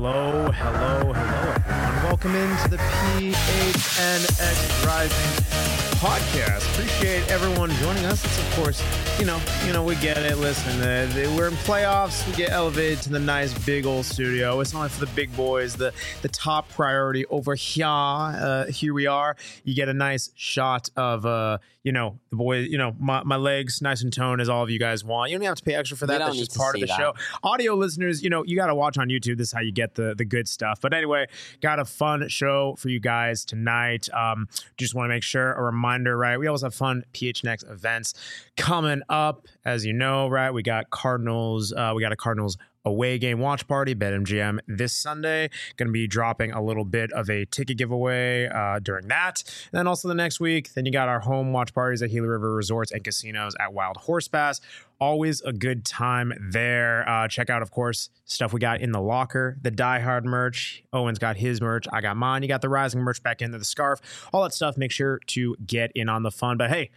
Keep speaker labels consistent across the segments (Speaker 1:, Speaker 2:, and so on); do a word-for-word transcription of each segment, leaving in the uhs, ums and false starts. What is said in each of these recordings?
Speaker 1: Hello, hello, hello, everyone. Welcome into the P H N X Rising podcast. Appreciate everyone joining us. It's, of course, you know, you know, we get it. Listen, uh, we're in playoffs. We get elevated to the nice big old studio. It's only for the big boys, the the top priority over here. Uh, here we are. You get a nice shot of, uh, you know, the boys, you know, my, my legs nice and toned as all of you guys want. You don't have to pay extra for that. That's just part of the that. show. Audio listeners, you know, you got to watch on YouTube. This is how you get the, the good stuff. But anyway, got a fun show for you guys tonight. Um, just want to make sure, a reminder, right? We always have fun P H N X events coming up, as you know, right? We got Cardinals. Uh, we got a Cardinals away game watch party, BetMGM this Sunday. Going to be dropping a little bit of a ticket giveaway uh, during that. And then also the next week, then you got our home watch parties at Gila River Resorts and Casinos at Wild Horse Pass. Always a good time there. Uh, check out, of course, stuff we got in the locker, the Die Hard merch. Owen's got his merch. I got mine. You got the Rising merch back into the scarf. All that stuff. Make sure to get in on the fun. But hey,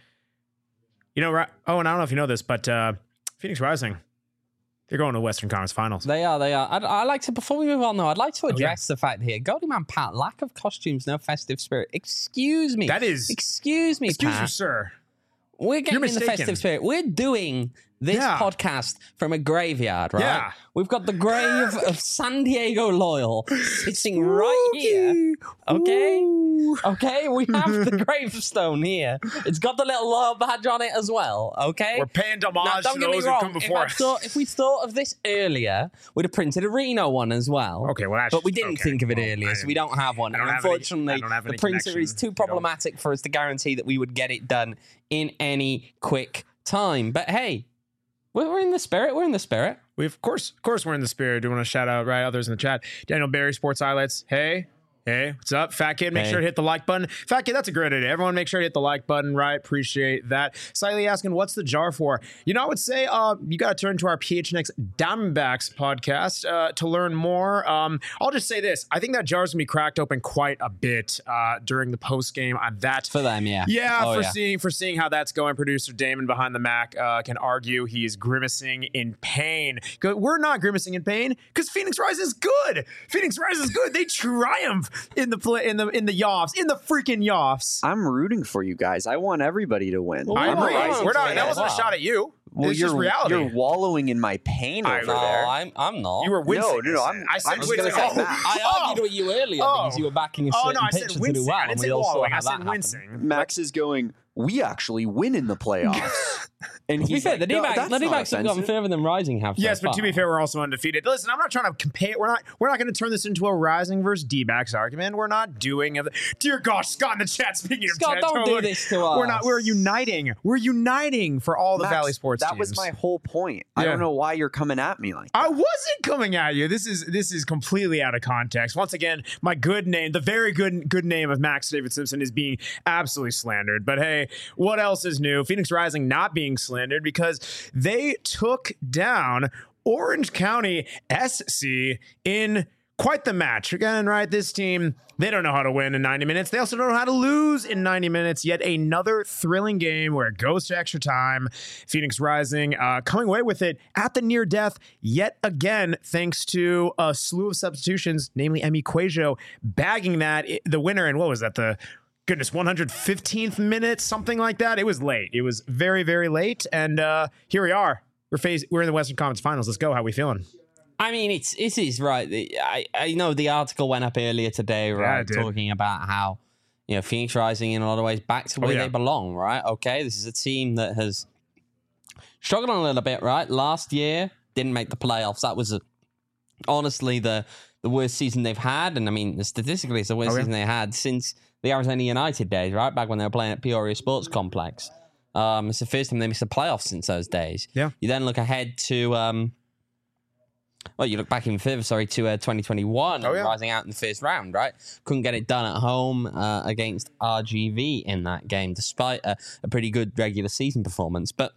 Speaker 1: you know, Owen, I don't know if you know this, but uh, Phoenix Rising, they're going to the Western Conference Finals.
Speaker 2: They are, they are. I'd, I like to, before we move on, though, I'd like to address oh, yeah. the fact here, Goldie Man Pat, lack of costumes, no festive spirit. Excuse me.
Speaker 1: That is.
Speaker 2: Excuse me,
Speaker 1: excuse
Speaker 2: Pat.
Speaker 1: you, sir.
Speaker 2: We're getting in the festive spirit. We're doing this yeah. podcast from a graveyard, right? Yeah. We've got the grave of San Diego Loyal sitting right here. Okay? Ooh. Okay? We have the gravestone here. It's got the little Loyal badge on it as well. Okay?
Speaker 1: We're paying homage now, to those who come before
Speaker 2: if
Speaker 1: us.
Speaker 2: Thought, if we thought of this earlier, we'd have printed a Reno one as well.
Speaker 1: Okay, well, actually,
Speaker 2: but we didn't
Speaker 1: okay.
Speaker 2: think of it
Speaker 1: well,
Speaker 2: earlier, so we don't have one. And
Speaker 1: have
Speaker 2: unfortunately,
Speaker 1: any, the
Speaker 2: printer
Speaker 1: connection.
Speaker 2: is too problematic for us to guarantee that we would get it done in any quick time. But hey, we're in the spirit. We're in the spirit.
Speaker 1: We of course, of course, we're in the spirit. Do want to shout out right others in the chat? Daniel Barry, Sports Highlights. Hey, hey, what's up, Fat Kid? Make hey. sure to hit the like button. Fat Kid, that's a great idea. Everyone, make sure to hit the like button. Right, appreciate that. Slightly asking, what's the jar for? You know, I would say, uh, you got to turn to our P H N X Diamondbacks podcast uh, to learn more. Um, I'll just say this: I think that jar's gonna be cracked open quite a bit uh, during the post game on that.
Speaker 2: For them, yeah,
Speaker 1: yeah,
Speaker 2: oh,
Speaker 1: for
Speaker 2: yeah.
Speaker 1: seeing for seeing how that's going. Producer Damon behind the Mac uh, can argue he is grimacing in pain. We're not grimacing in pain because Phoenix Rise is good. Phoenix Rise is good. They triumph in the play in the in the Yoffs in the freaking Yoffs.
Speaker 3: I'm rooting for you guys. I want everybody to win.
Speaker 1: Well, I'm right. We're not. That wasn't a shot at you.
Speaker 3: Well,
Speaker 1: it's
Speaker 3: you're,
Speaker 1: just reality.
Speaker 3: You're wallowing in my pain
Speaker 1: I,
Speaker 3: over
Speaker 2: no,
Speaker 3: there.
Speaker 2: I'm, I'm not.
Speaker 1: You were wincing.
Speaker 3: No, no, no. I'm,
Speaker 1: I said
Speaker 3: I'm
Speaker 1: wincing.
Speaker 3: Say,
Speaker 1: oh,
Speaker 2: I argued
Speaker 1: oh,
Speaker 2: with you earlier
Speaker 1: oh,
Speaker 2: because you were backing a certain
Speaker 1: oh, no, I
Speaker 2: pitcher
Speaker 1: said wincing.
Speaker 2: to do well.
Speaker 1: I didn't
Speaker 2: and
Speaker 1: say
Speaker 2: we all
Speaker 1: wallowing.
Speaker 2: saw
Speaker 1: I
Speaker 2: how
Speaker 1: said
Speaker 2: that
Speaker 1: wincing.
Speaker 3: Max is going, we actually win in the playoffs. And
Speaker 2: to be
Speaker 3: he's
Speaker 2: fair,
Speaker 3: like,
Speaker 2: the D-backs,
Speaker 3: no,
Speaker 2: the D-backs have gotten further than Rising have.
Speaker 1: Yes,
Speaker 2: so
Speaker 1: but
Speaker 2: far.
Speaker 1: to be fair, we're also undefeated. Listen, I'm not trying to compare. We're not. We're not going to turn this into a Rising versus D-backs argument. We're not doing. A, dear gosh, Scott in the chat. Speaking
Speaker 2: Scott,
Speaker 1: of,
Speaker 2: don't
Speaker 1: totally,
Speaker 2: do this to us.
Speaker 1: We're not. We're uniting. We're uniting for all the
Speaker 3: Max,
Speaker 1: Valley Sports
Speaker 3: that
Speaker 1: teams.
Speaker 3: was my whole point.
Speaker 1: Yeah.
Speaker 3: I don't know why you're coming at me like that.
Speaker 1: I wasn't coming at you. This is this is completely out of context. Once again, my good name, the very good good name of Max David Simpson is being absolutely slandered. But hey, what else is new? Phoenix Rising not being slandered because they took down Orange County S C in quite the match. Again, right, this team, they don't know how to win in ninety minutes. They also don't know how to lose in ninety minutes. Yet another thrilling game where it goes to extra time. Phoenix Rising uh, coming away with it at the near death yet again, thanks to a slew of substitutions, namely Emi Quajo bagging that, the winner. And what was that? The goodness, one hundred fifteenth minute, something like that. It was late. It was very, very late. And uh, here we are. We're phase, we're in the Western Conference Finals. Let's go. How we feeling?
Speaker 2: I mean, it's it is right. I I know the article went up earlier today, right,
Speaker 1: yeah,
Speaker 2: talking about how, you know, Phoenix Rising in a lot of ways back to where oh, yeah. they belong, right? Okay, this is a team that has struggled a little bit, right? Last year didn't make the playoffs. That was a, honestly the the worst season they've had, and I mean, statistically, it's the worst oh, yeah. season they had since the Arizona United days, right? Back when they were playing at Peoria Sports Complex. Um, it's the first time they missed the playoffs since those days.
Speaker 1: Yeah.
Speaker 2: You then look ahead to, um, well, you look back even further, sorry, to uh, twenty twenty-one, oh, yeah. rising out in the first round, right? Couldn't get it done at home uh, against R G V in that game, despite a, a pretty good regular season performance. But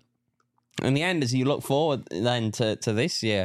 Speaker 2: in the end, as you look forward then to, to this year,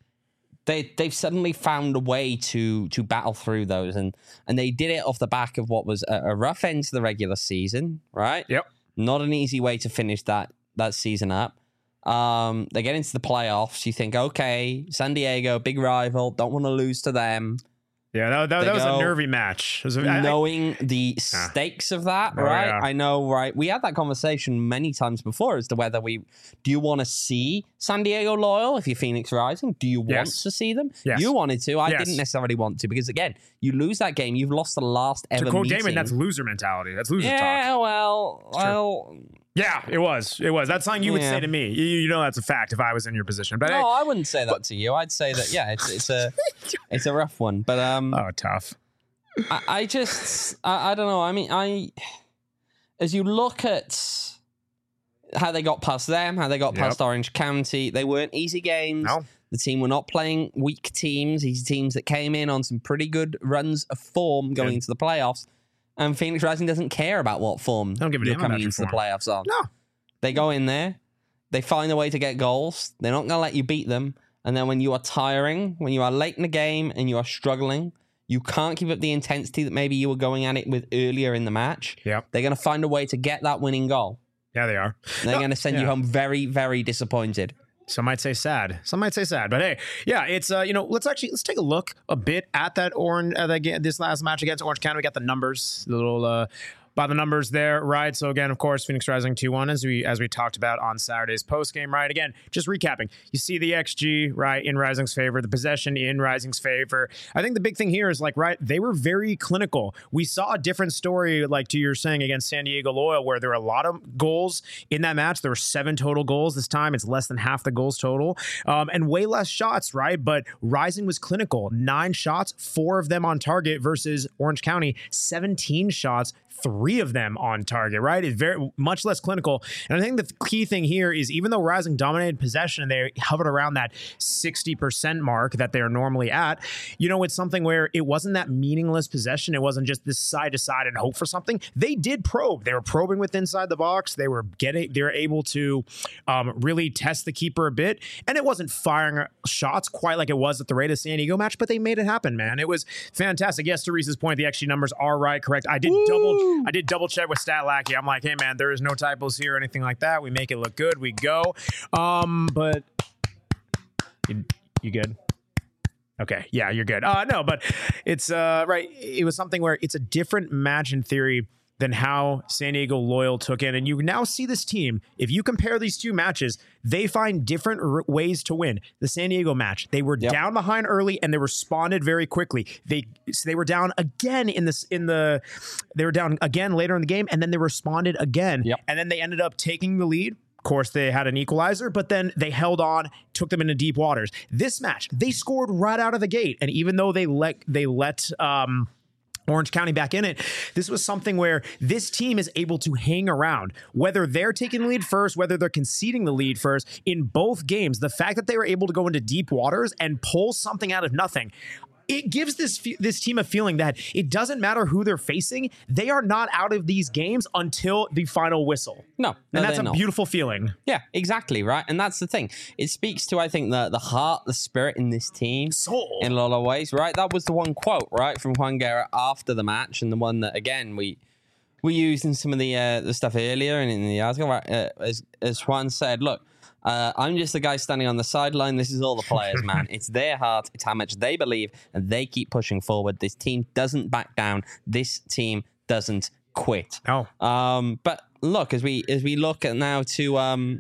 Speaker 2: they they've suddenly found a way to to battle through those, and and they did it off the back of what was a, a rough end to the regular season, right?
Speaker 1: Yep.
Speaker 2: Not an easy way to finish that that season up. Um, they get into the playoffs. You think, okay, San Diego, big rival, don't want to lose to them.
Speaker 1: Yeah, that, that, that was a nervy match. It was a,
Speaker 2: knowing
Speaker 1: I,
Speaker 2: the stakes of that,
Speaker 1: oh,
Speaker 2: right?
Speaker 1: Yeah.
Speaker 2: I know, right? We had that conversation many times before as to whether we do you want to see San Diego Loyal if you're Phoenix Rising? Do you want
Speaker 1: yes.
Speaker 2: to see them?
Speaker 1: Yes.
Speaker 2: You wanted to. I
Speaker 1: yes.
Speaker 2: didn't necessarily want to because, again, you lose that game. You've lost the last ever
Speaker 1: to quote
Speaker 2: meeting.
Speaker 1: Damon, that's loser mentality. That's loser
Speaker 2: yeah,
Speaker 1: talk.
Speaker 2: Yeah, well, well...
Speaker 1: Yeah, it was. It was. That's something you would yeah. say to me. You, you know that's a fact if I was in your position. But
Speaker 2: no,
Speaker 1: I,
Speaker 2: I wouldn't say that but, to you. I'd say that, yeah, it's it's a it's a rough one. But um,
Speaker 1: oh, tough.
Speaker 2: I, I just, I, I don't know. I mean, I, as you look at how they got past them, how they got past yep. Orange County, they weren't easy games.
Speaker 1: No.
Speaker 2: The team were not playing weak teams. These teams that came in on some pretty good runs of form going good. into the playoffs. And Phoenix Rising doesn't care about what form
Speaker 1: don't give a
Speaker 2: you're
Speaker 1: damn
Speaker 2: coming into
Speaker 1: form.
Speaker 2: the playoffs on.
Speaker 1: No.
Speaker 2: They go in there, they find a way to get goals. They're not going to let you beat them. And then when you are tiring, when you are late in the game and you are struggling, you can't keep up the intensity that maybe you were going at it with earlier in the match.
Speaker 1: Yep.
Speaker 2: They're going to find a way to get that winning goal.
Speaker 1: Yeah, they are.
Speaker 2: They're
Speaker 1: no,
Speaker 2: going to send
Speaker 1: yeah.
Speaker 2: you home very, very disappointed.
Speaker 1: Some might say sad. Some might say sad. But hey, yeah, it's uh, you know, let's actually let's take a look a bit at that orange uh, that, this last match against Orange County. We got the numbers, the little uh, by the numbers there, right? So again, of course, Phoenix Rising two one as we as we talked about on Saturday's post game, right? Again, just recapping, you see the X G right in Rising's favor, the possession in Rising's favor. I think the big thing here is like right, they were very clinical. We saw a different story, like to your saying against San Diego Loyal, where there were a lot of goals in that match. There were seven total goals this time. It's less than half the goals total, um, and way less shots, right? But Rising was clinical, nine shots, four of them on target versus Orange County, seventeen shots. Three of them on target, right? It's very much less clinical. And I think the key thing here is even though Rising dominated possession and they hovered around that sixty percent mark that they're normally at, you know, it's something where it wasn't that meaningless possession. It wasn't just this side to side and hope for something. They did probe. They were probing with inside the box. They were getting, they were able to um, really test the keeper a bit. And it wasn't firing shots quite like it was at the Raiders San Diego match, but they made it happen, man. It was fantastic. Yes, to Reese's point, the X G numbers are right, correct. I did Woo! double I did double check with StatLackey. I'm like, hey, man, there is no typos here or anything like that. We make it look good. We go. Um, but you, you good? Okay. Yeah, you're good. Uh, no, but it's uh, right. It was something where it's a different match in theory than how San Diego Loyal took it. And you now see this team, if you compare these two matches, they find different r- ways to win. The San Diego match, they were yep. down behind early and they responded very quickly. They so they were down again in this in the they were down again later in the game, and then they responded again.
Speaker 2: Yep.
Speaker 1: And then they ended up taking the lead. Of course, they had an equalizer, but then they held on, took them into deep waters. This match, they scored right out of the gate. And even though they let they let um Orange County back in it, this was something where this team is able to hang around, whether they're taking the lead first, whether they're conceding the lead first in both games. The fact that they were able to go into deep waters and pull something out of nothing, it gives this this team a feeling that it doesn't matter who they're facing. They are not out of these games until the final whistle.
Speaker 2: No, no
Speaker 1: and that's a
Speaker 2: not.
Speaker 1: beautiful feeling.
Speaker 2: Yeah, exactly, right? And that's the thing. It speaks to, I think, the, the heart, the spirit in this team.
Speaker 1: Soul.
Speaker 2: In a lot of ways, right? That was the one quote, right, from Juan Guerra after the match, and the one that, again, we we used in some of the uh, the stuff earlier and in the article, right? Uh, as, as Juan said, look, Uh, I'm just the guy standing on the sideline. This is all the players, man. It's their heart. It's how much they believe, and they keep pushing forward. This team doesn't back down. This team doesn't quit.
Speaker 1: Oh.
Speaker 2: Um, but look, as we as we look at now to, um,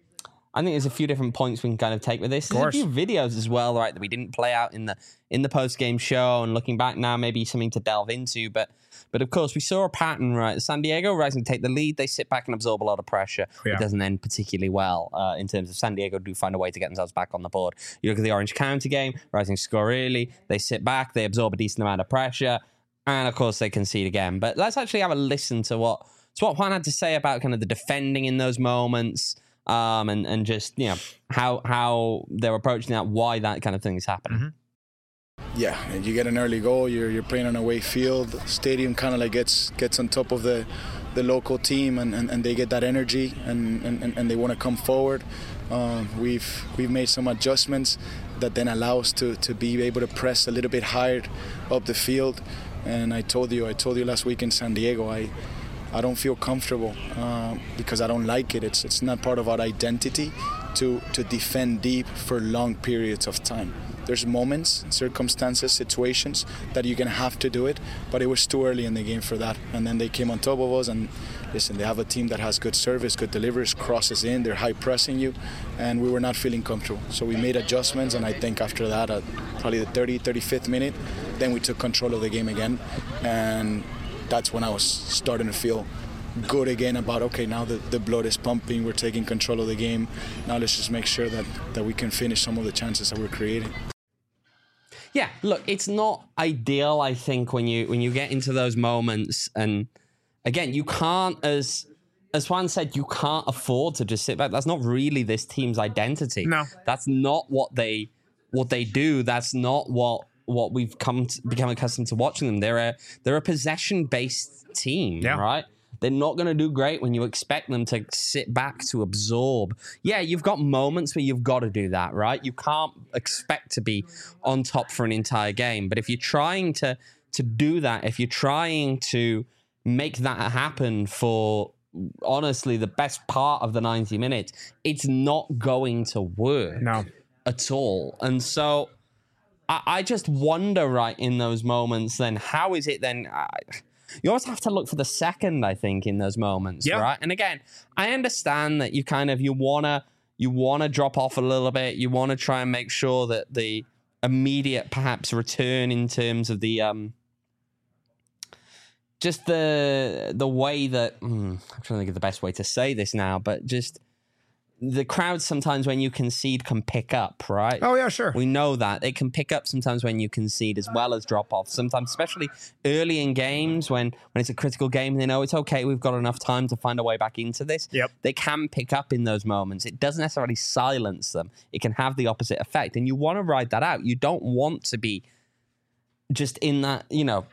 Speaker 2: I think there's a few different points we can kind of take with this. There's a few videos as well, right, that we didn't play out in the in the post game show, and looking back now, maybe something to delve into, but. But of course, we saw a pattern, right? San Diego Rising take the lead. They sit back and absorb a lot of pressure. Yeah. It doesn't end particularly well uh, in terms of San Diego do find a way to get themselves back on the board. You look at the Orange County game, Rising score early. They sit back. They absorb a decent amount of pressure. And of course, they concede again. But let's actually have a listen to what, to what Juan had to say about kind of the defending in those moments um, and, and just, you know, how, how they're approaching that, why that kind of thing is happening. Mm-hmm.
Speaker 4: Yeah, you get an early goal, you're you're playing on a away field, the stadium kind of like gets gets on top of the the local team, and, and, and they get that energy, and, and, and they want to come forward. Um, we've we've made some adjustments that then allow us to, to be able to press a little bit higher up the field. And I told you, I told you last week in San Diego, I I don't feel comfortable uh, because I don't like it. It's it's not part of our identity to, to defend deep for long periods of time. There's moments, circumstances, situations that you're going to have to do it, but it was too early in the game for that. And then they came on top of us, and listen, they have a team that has good service, good deliveries, crosses in, they're high pressing you, and we were not feeling comfortable. So we made adjustments, and I think after that, at probably the thirtieth, thirty-fifth minute, then we took control of the game again, and that's when I was starting to feel good again about, okay, now the, the blood is pumping, we're taking control of the game. Now let's just make sure that, that we can finish some of the chances that we're creating.
Speaker 2: Yeah, look, it's not ideal, I think, when you when you get into those moments. And again, you can't, as as Juan said, you can't afford to just sit back. That's not really this team's identity.
Speaker 1: No.
Speaker 2: That's not what they what they do. That's not what what we've come to become accustomed to watching them. They're a they're a possession-based team,
Speaker 1: yeah.
Speaker 2: right? They're not going to do great when you expect them to sit back to absorb. Yeah, you've got moments where you've got to do that, right? You can't expect to be on top for an entire game. But if you're trying to to do that, if you're trying to make that happen for, honestly, the best part of the ninety minutes, it's not going to work
Speaker 1: no.
Speaker 2: at all. And so I, I just wonder, right, in those moments, then, how is it then... I, You always have to look for the second, I think, in those moments, yeah. right? And again, I understand that you kind of, you want to you wanna drop off a little bit. You want to try and make sure that the immediate, perhaps, return in terms of the, um, just the the way that, hmm, I'm trying to think of the best way to say this now, but just the crowd sometimes when you concede can pick up, right?
Speaker 1: Oh, yeah, sure.
Speaker 2: We know that. They can pick up sometimes when you concede as well as drop off. Sometimes, especially early in games when, when it's a critical game, they know it's okay, we've got enough time to find a way back into this.
Speaker 1: Yep.
Speaker 2: They can pick up in those moments. It doesn't necessarily silence them. It can have the opposite effect. And you want to ride that out. You don't want to be just in that, you know,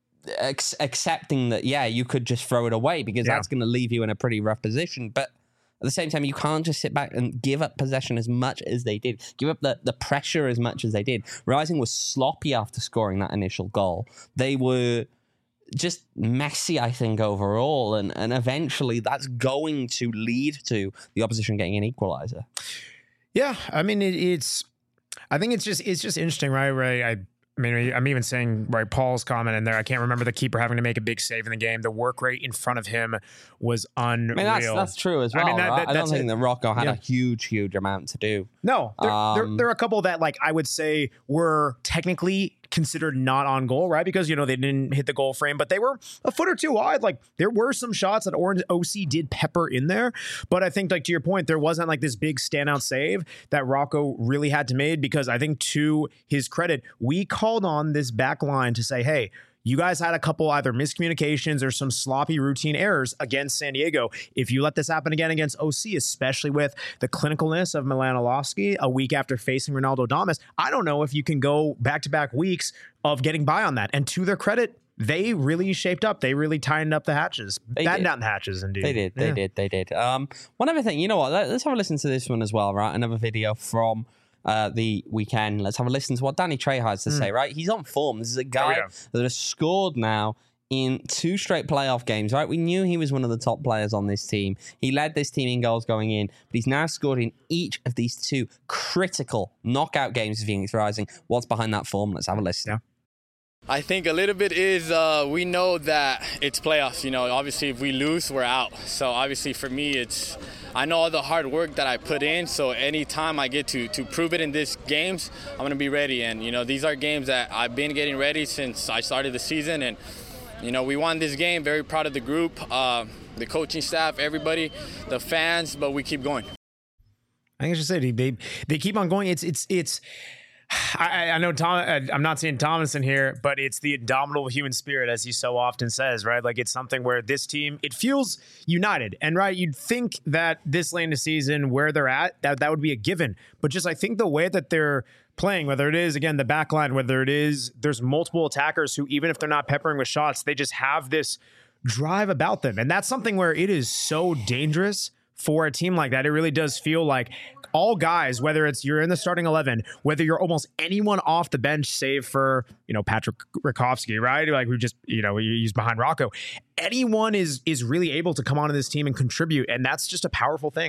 Speaker 2: ex- accepting that, yeah, you could just throw it away because yeah. that's going to leave you in a pretty rough position. But at the same time, you can't just sit back and give up possession as much as they did. Give up the, the pressure as much as they did. Rising was sloppy after scoring that initial goal. They were just messy, I think, overall. And, and eventually that's going to lead to the opposition getting an equalizer.
Speaker 1: Yeah, I mean, it, it's... I think it's just it's just interesting, right? Right, I... I mean, I'm even saying, right, Paul's comment in there, I can't remember the keeper having to make a big save in the game. The work rate in front of him was unreal.
Speaker 2: I mean, that's, that's true as well. I, mean, that,
Speaker 1: that,
Speaker 2: right? I don't think
Speaker 1: it.
Speaker 2: that Rocco had
Speaker 1: yeah.
Speaker 2: a huge, huge amount to do.
Speaker 1: No, there,
Speaker 2: um,
Speaker 1: there, there are a couple that, like, I would say were technically considered not on goal, right? Because, you know, they didn't hit the goal frame, but they were a foot or two wide. Like, there were some shots that Orange O C did pepper in there. But I think, like, to your point, there wasn't like this big standout save that Rocco really had to make, because I think, to his credit, we called on this back line to say, hey, you guys had a couple either miscommunications or some sloppy routine errors against San Diego. If you let this happen again against O C, especially with the clinicalness of Milan Orlovsky a week after facing Ronaldo Damas, I don't know if you can go back-to-back weeks of getting by on that. And to their credit, they really shaped up. They really tightened up the hatches. They Battened down the hatches, indeed.
Speaker 2: They did. They yeah. did. They did. Um, one other thing, you know what? Let's have a listen to this one as well, right? Another video from Uh, the weekend. Let's have a listen to what Danny Trejo has to mm. say, right? He's on form. This is a guy that has scored now in two straight playoff games, right? We knew he was one of the top players on this team. He led this team in goals going in, but he's now scored in each of these two critical knockout games for Phoenix Rising. What's behind that form? Let's have a listen.
Speaker 1: Yeah.
Speaker 5: I think a little bit is uh, we know that it's playoffs. You know, obviously if we lose, we're out. So obviously for me, it's I know all the hard work that I put in. So anytime I get to to prove it in these games, I'm gonna be ready. And you know, these are games that I've been getting ready since I started the season. And you know, we won this game. Very proud of the group, uh, the coaching staff, everybody, the fans. But we keep going.
Speaker 1: I think I should say they they keep on going. It's it's it's. I, I know Tom. I'm not saying Thomason here, but it's the indomitable human spirit, as he so often says, right? Like, it's something where this team, it feels united, and right, you'd think that this late in the season, where they're at, that that would be a given. But just I think the way that they're playing, whether it is again the back line, whether it is there's multiple attackers who, even if they're not peppering with shots, they just have this drive about them, and that's something where it is so dangerous for a team like that. It really does feel like all guys, whether it's you're in the starting eleven, whether you're almost anyone off the bench, save for, you know, Patrick Rakowski, right? Like, we just, you know, he's behind Rocco. Anyone is is really able to come onto this team and contribute, and that's just a powerful thing.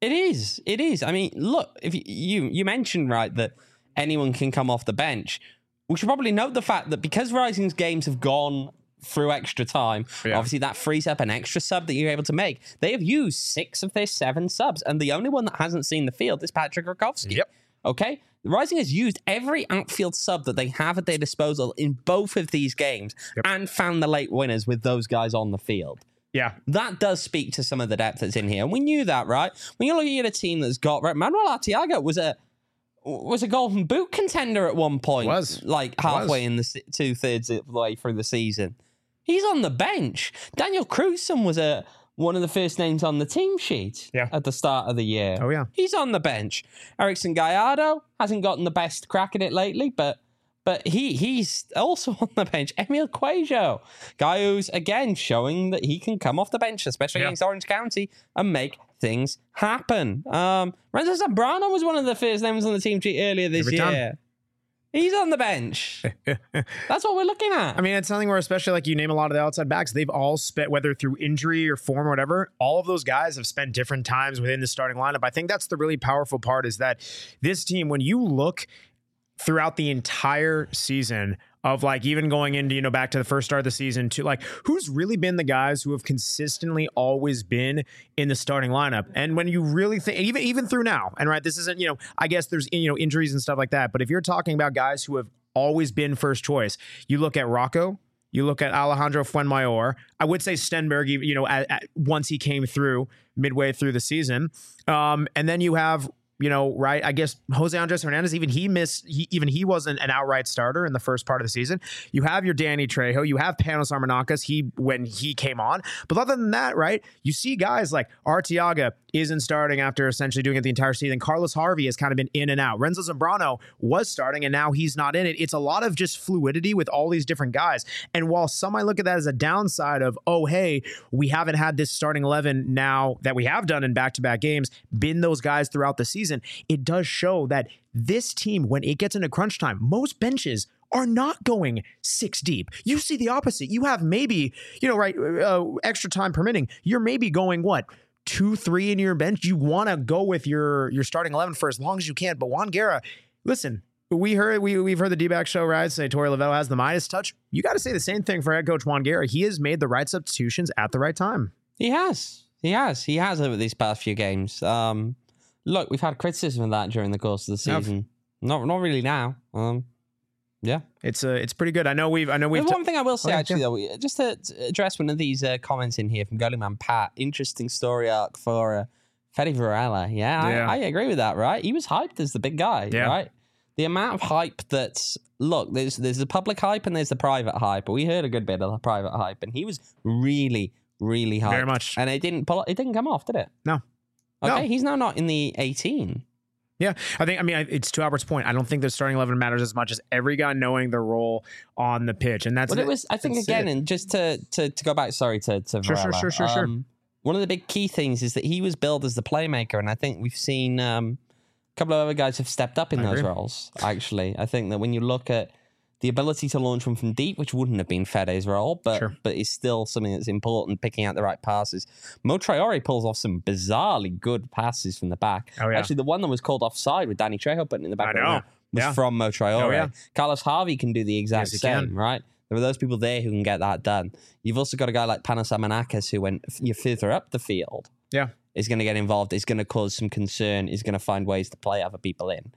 Speaker 2: It is. It is. I mean, look, if you, you you mentioned, right, that anyone can come off the bench. We should probably note the fact that because Rising's games have gone through extra time, yeah. obviously that frees up an extra sub that you're able to make. They have used six of their seven subs, and the only one that hasn't seen the field is Patrick Rakowski.
Speaker 1: Yep.
Speaker 2: Okay? Rising has used every outfield sub that they have at their disposal in both of these games yep. and found the late winners with those guys on the field.
Speaker 1: Yeah.
Speaker 2: That does speak to some of the depth that's in here. And we knew that, right? When you're looking at a team that's got... Right, Manuel Arteaga was a... was a Golden Boot contender at one point.
Speaker 1: Was.
Speaker 2: Like halfway in the two-thirds of the way through the season. He's on the bench. Daniel Crewson was a one of the first names on the team sheet
Speaker 1: yeah.
Speaker 2: at the start of the year.
Speaker 1: Oh, yeah.
Speaker 2: He's on the bench. Erickson Gallardo hasn't gotten the best crack at it lately, but but he he's also on the bench. Emil Cuello, guy who's, again, showing that he can come off the bench, especially yeah. against Orange County, and make things happen. Um, Renzo Zambrano was one of the first names on the team sheet earlier this
Speaker 1: Every
Speaker 2: year.
Speaker 1: time.
Speaker 2: He's on the bench. That's what we're looking at.
Speaker 1: I mean, it's something where, especially like you name a lot of the outside backs, they've all spent, whether through injury or form or whatever, all of those guys have spent different times within the starting lineup. I think that's the really powerful part, is that this team, when you look throughout the entire season, of like even going into, you know, back to the first start of the season to like, who's really been the guys who have consistently always been in the starting lineup. And when you really think, even, even through now, and right, this isn't, you know, I guess there's, you know, injuries and stuff like that. But if you're talking about guys who have always been first choice, you look at Rocco, you look at Alejandro Fuenmayor. I would say Stenberg, you know, at, at, once he came through midway through the season. Um, and then you have, you know, right, I guess Jose Andres Hernandez, even he missed, he, even he wasn't an outright starter in the first part of the season. You have your Danny Trejo, you have Panos Armanakis, he, when he came on. But other than that, right, you see guys like Arteaga isn't starting after essentially doing it the entire season. Carlos Harvey has kind of been in and out. Renzo Zambrano was starting and now he's not in it. It's a lot of just fluidity with all these different guys. And while some might look at that as a downside of, oh, hey, we haven't had this starting eleven now that we have done in back-to-back games, been those guys throughout the season, it does show that this team, when it gets into crunch time, most benches are not going six deep. You see the opposite. You have maybe, you know, right, uh, extra time permitting, you're maybe going, what, two, three in your bench? You want to go with your your starting eleven for as long as you can. But Juan Guerra, listen, we heard, we, we've heard the D-back show, right, say Torey Lovullo has the Midas touch. You got to say the same thing for head coach Juan Guerra. He has made the right substitutions at the right time.
Speaker 2: He has. He has. He has over these past few games. Um, look, we've had criticism of that during the course of the season. Yep. Not not really now. Um, yeah,
Speaker 1: it's uh, it's pretty good. I know we've. I know we've.
Speaker 2: One t- thing I will say,
Speaker 1: oh, yeah,
Speaker 2: actually,
Speaker 1: yeah.
Speaker 2: though, just to address one of these uh, comments in here from Goalie Pat. Interesting story arc for uh, Fede Varela. Yeah, yeah. I, I agree with that. Right, he was hyped as the big guy. Yeah. Right. The amount of hype that's look, there's there's the public hype and there's the private hype. But we heard a good bit of the private hype, and he was really, really hyped.
Speaker 1: Very much.
Speaker 2: And it didn't pull. It didn't come off, did it?
Speaker 1: No.
Speaker 2: Okay,
Speaker 1: no.
Speaker 2: He's now not in the eighteen.
Speaker 1: Yeah, I think, I mean, it's to Albert's point. I don't think the starting eleven matters as much as every guy knowing their role on the pitch. And that's
Speaker 2: what it was, I think, again, and just to, to, to go back, sorry, to, to
Speaker 1: sure,
Speaker 2: Varela,
Speaker 1: sure, sure, sure,
Speaker 2: um, sure. One of the big key things is that he was billed as the playmaker. And I think we've seen um, a couple of other guys have stepped up in I those agree. roles, actually. I think that when you look at the ability to launch one from deep, which wouldn't have been Fede's role, but sure. but is still something that's important, picking out the right passes. Mo Traore pulls off some bizarrely good passes from the back.
Speaker 1: Oh, yeah.
Speaker 2: Actually, the one that was called offside with Danny Trejo putting in the back
Speaker 1: I know.
Speaker 2: was
Speaker 1: yeah.
Speaker 2: from Mo Traore. Oh, yeah. Carlos Harvey can do the exact
Speaker 1: yes,
Speaker 2: same,
Speaker 1: can.
Speaker 2: right? There are those people there who can get that done. You've also got a guy like Panos Armanakis who, when you're further up the field,
Speaker 1: yeah,
Speaker 2: is going to get involved, is going to cause some concern, is going to find ways to play other people in.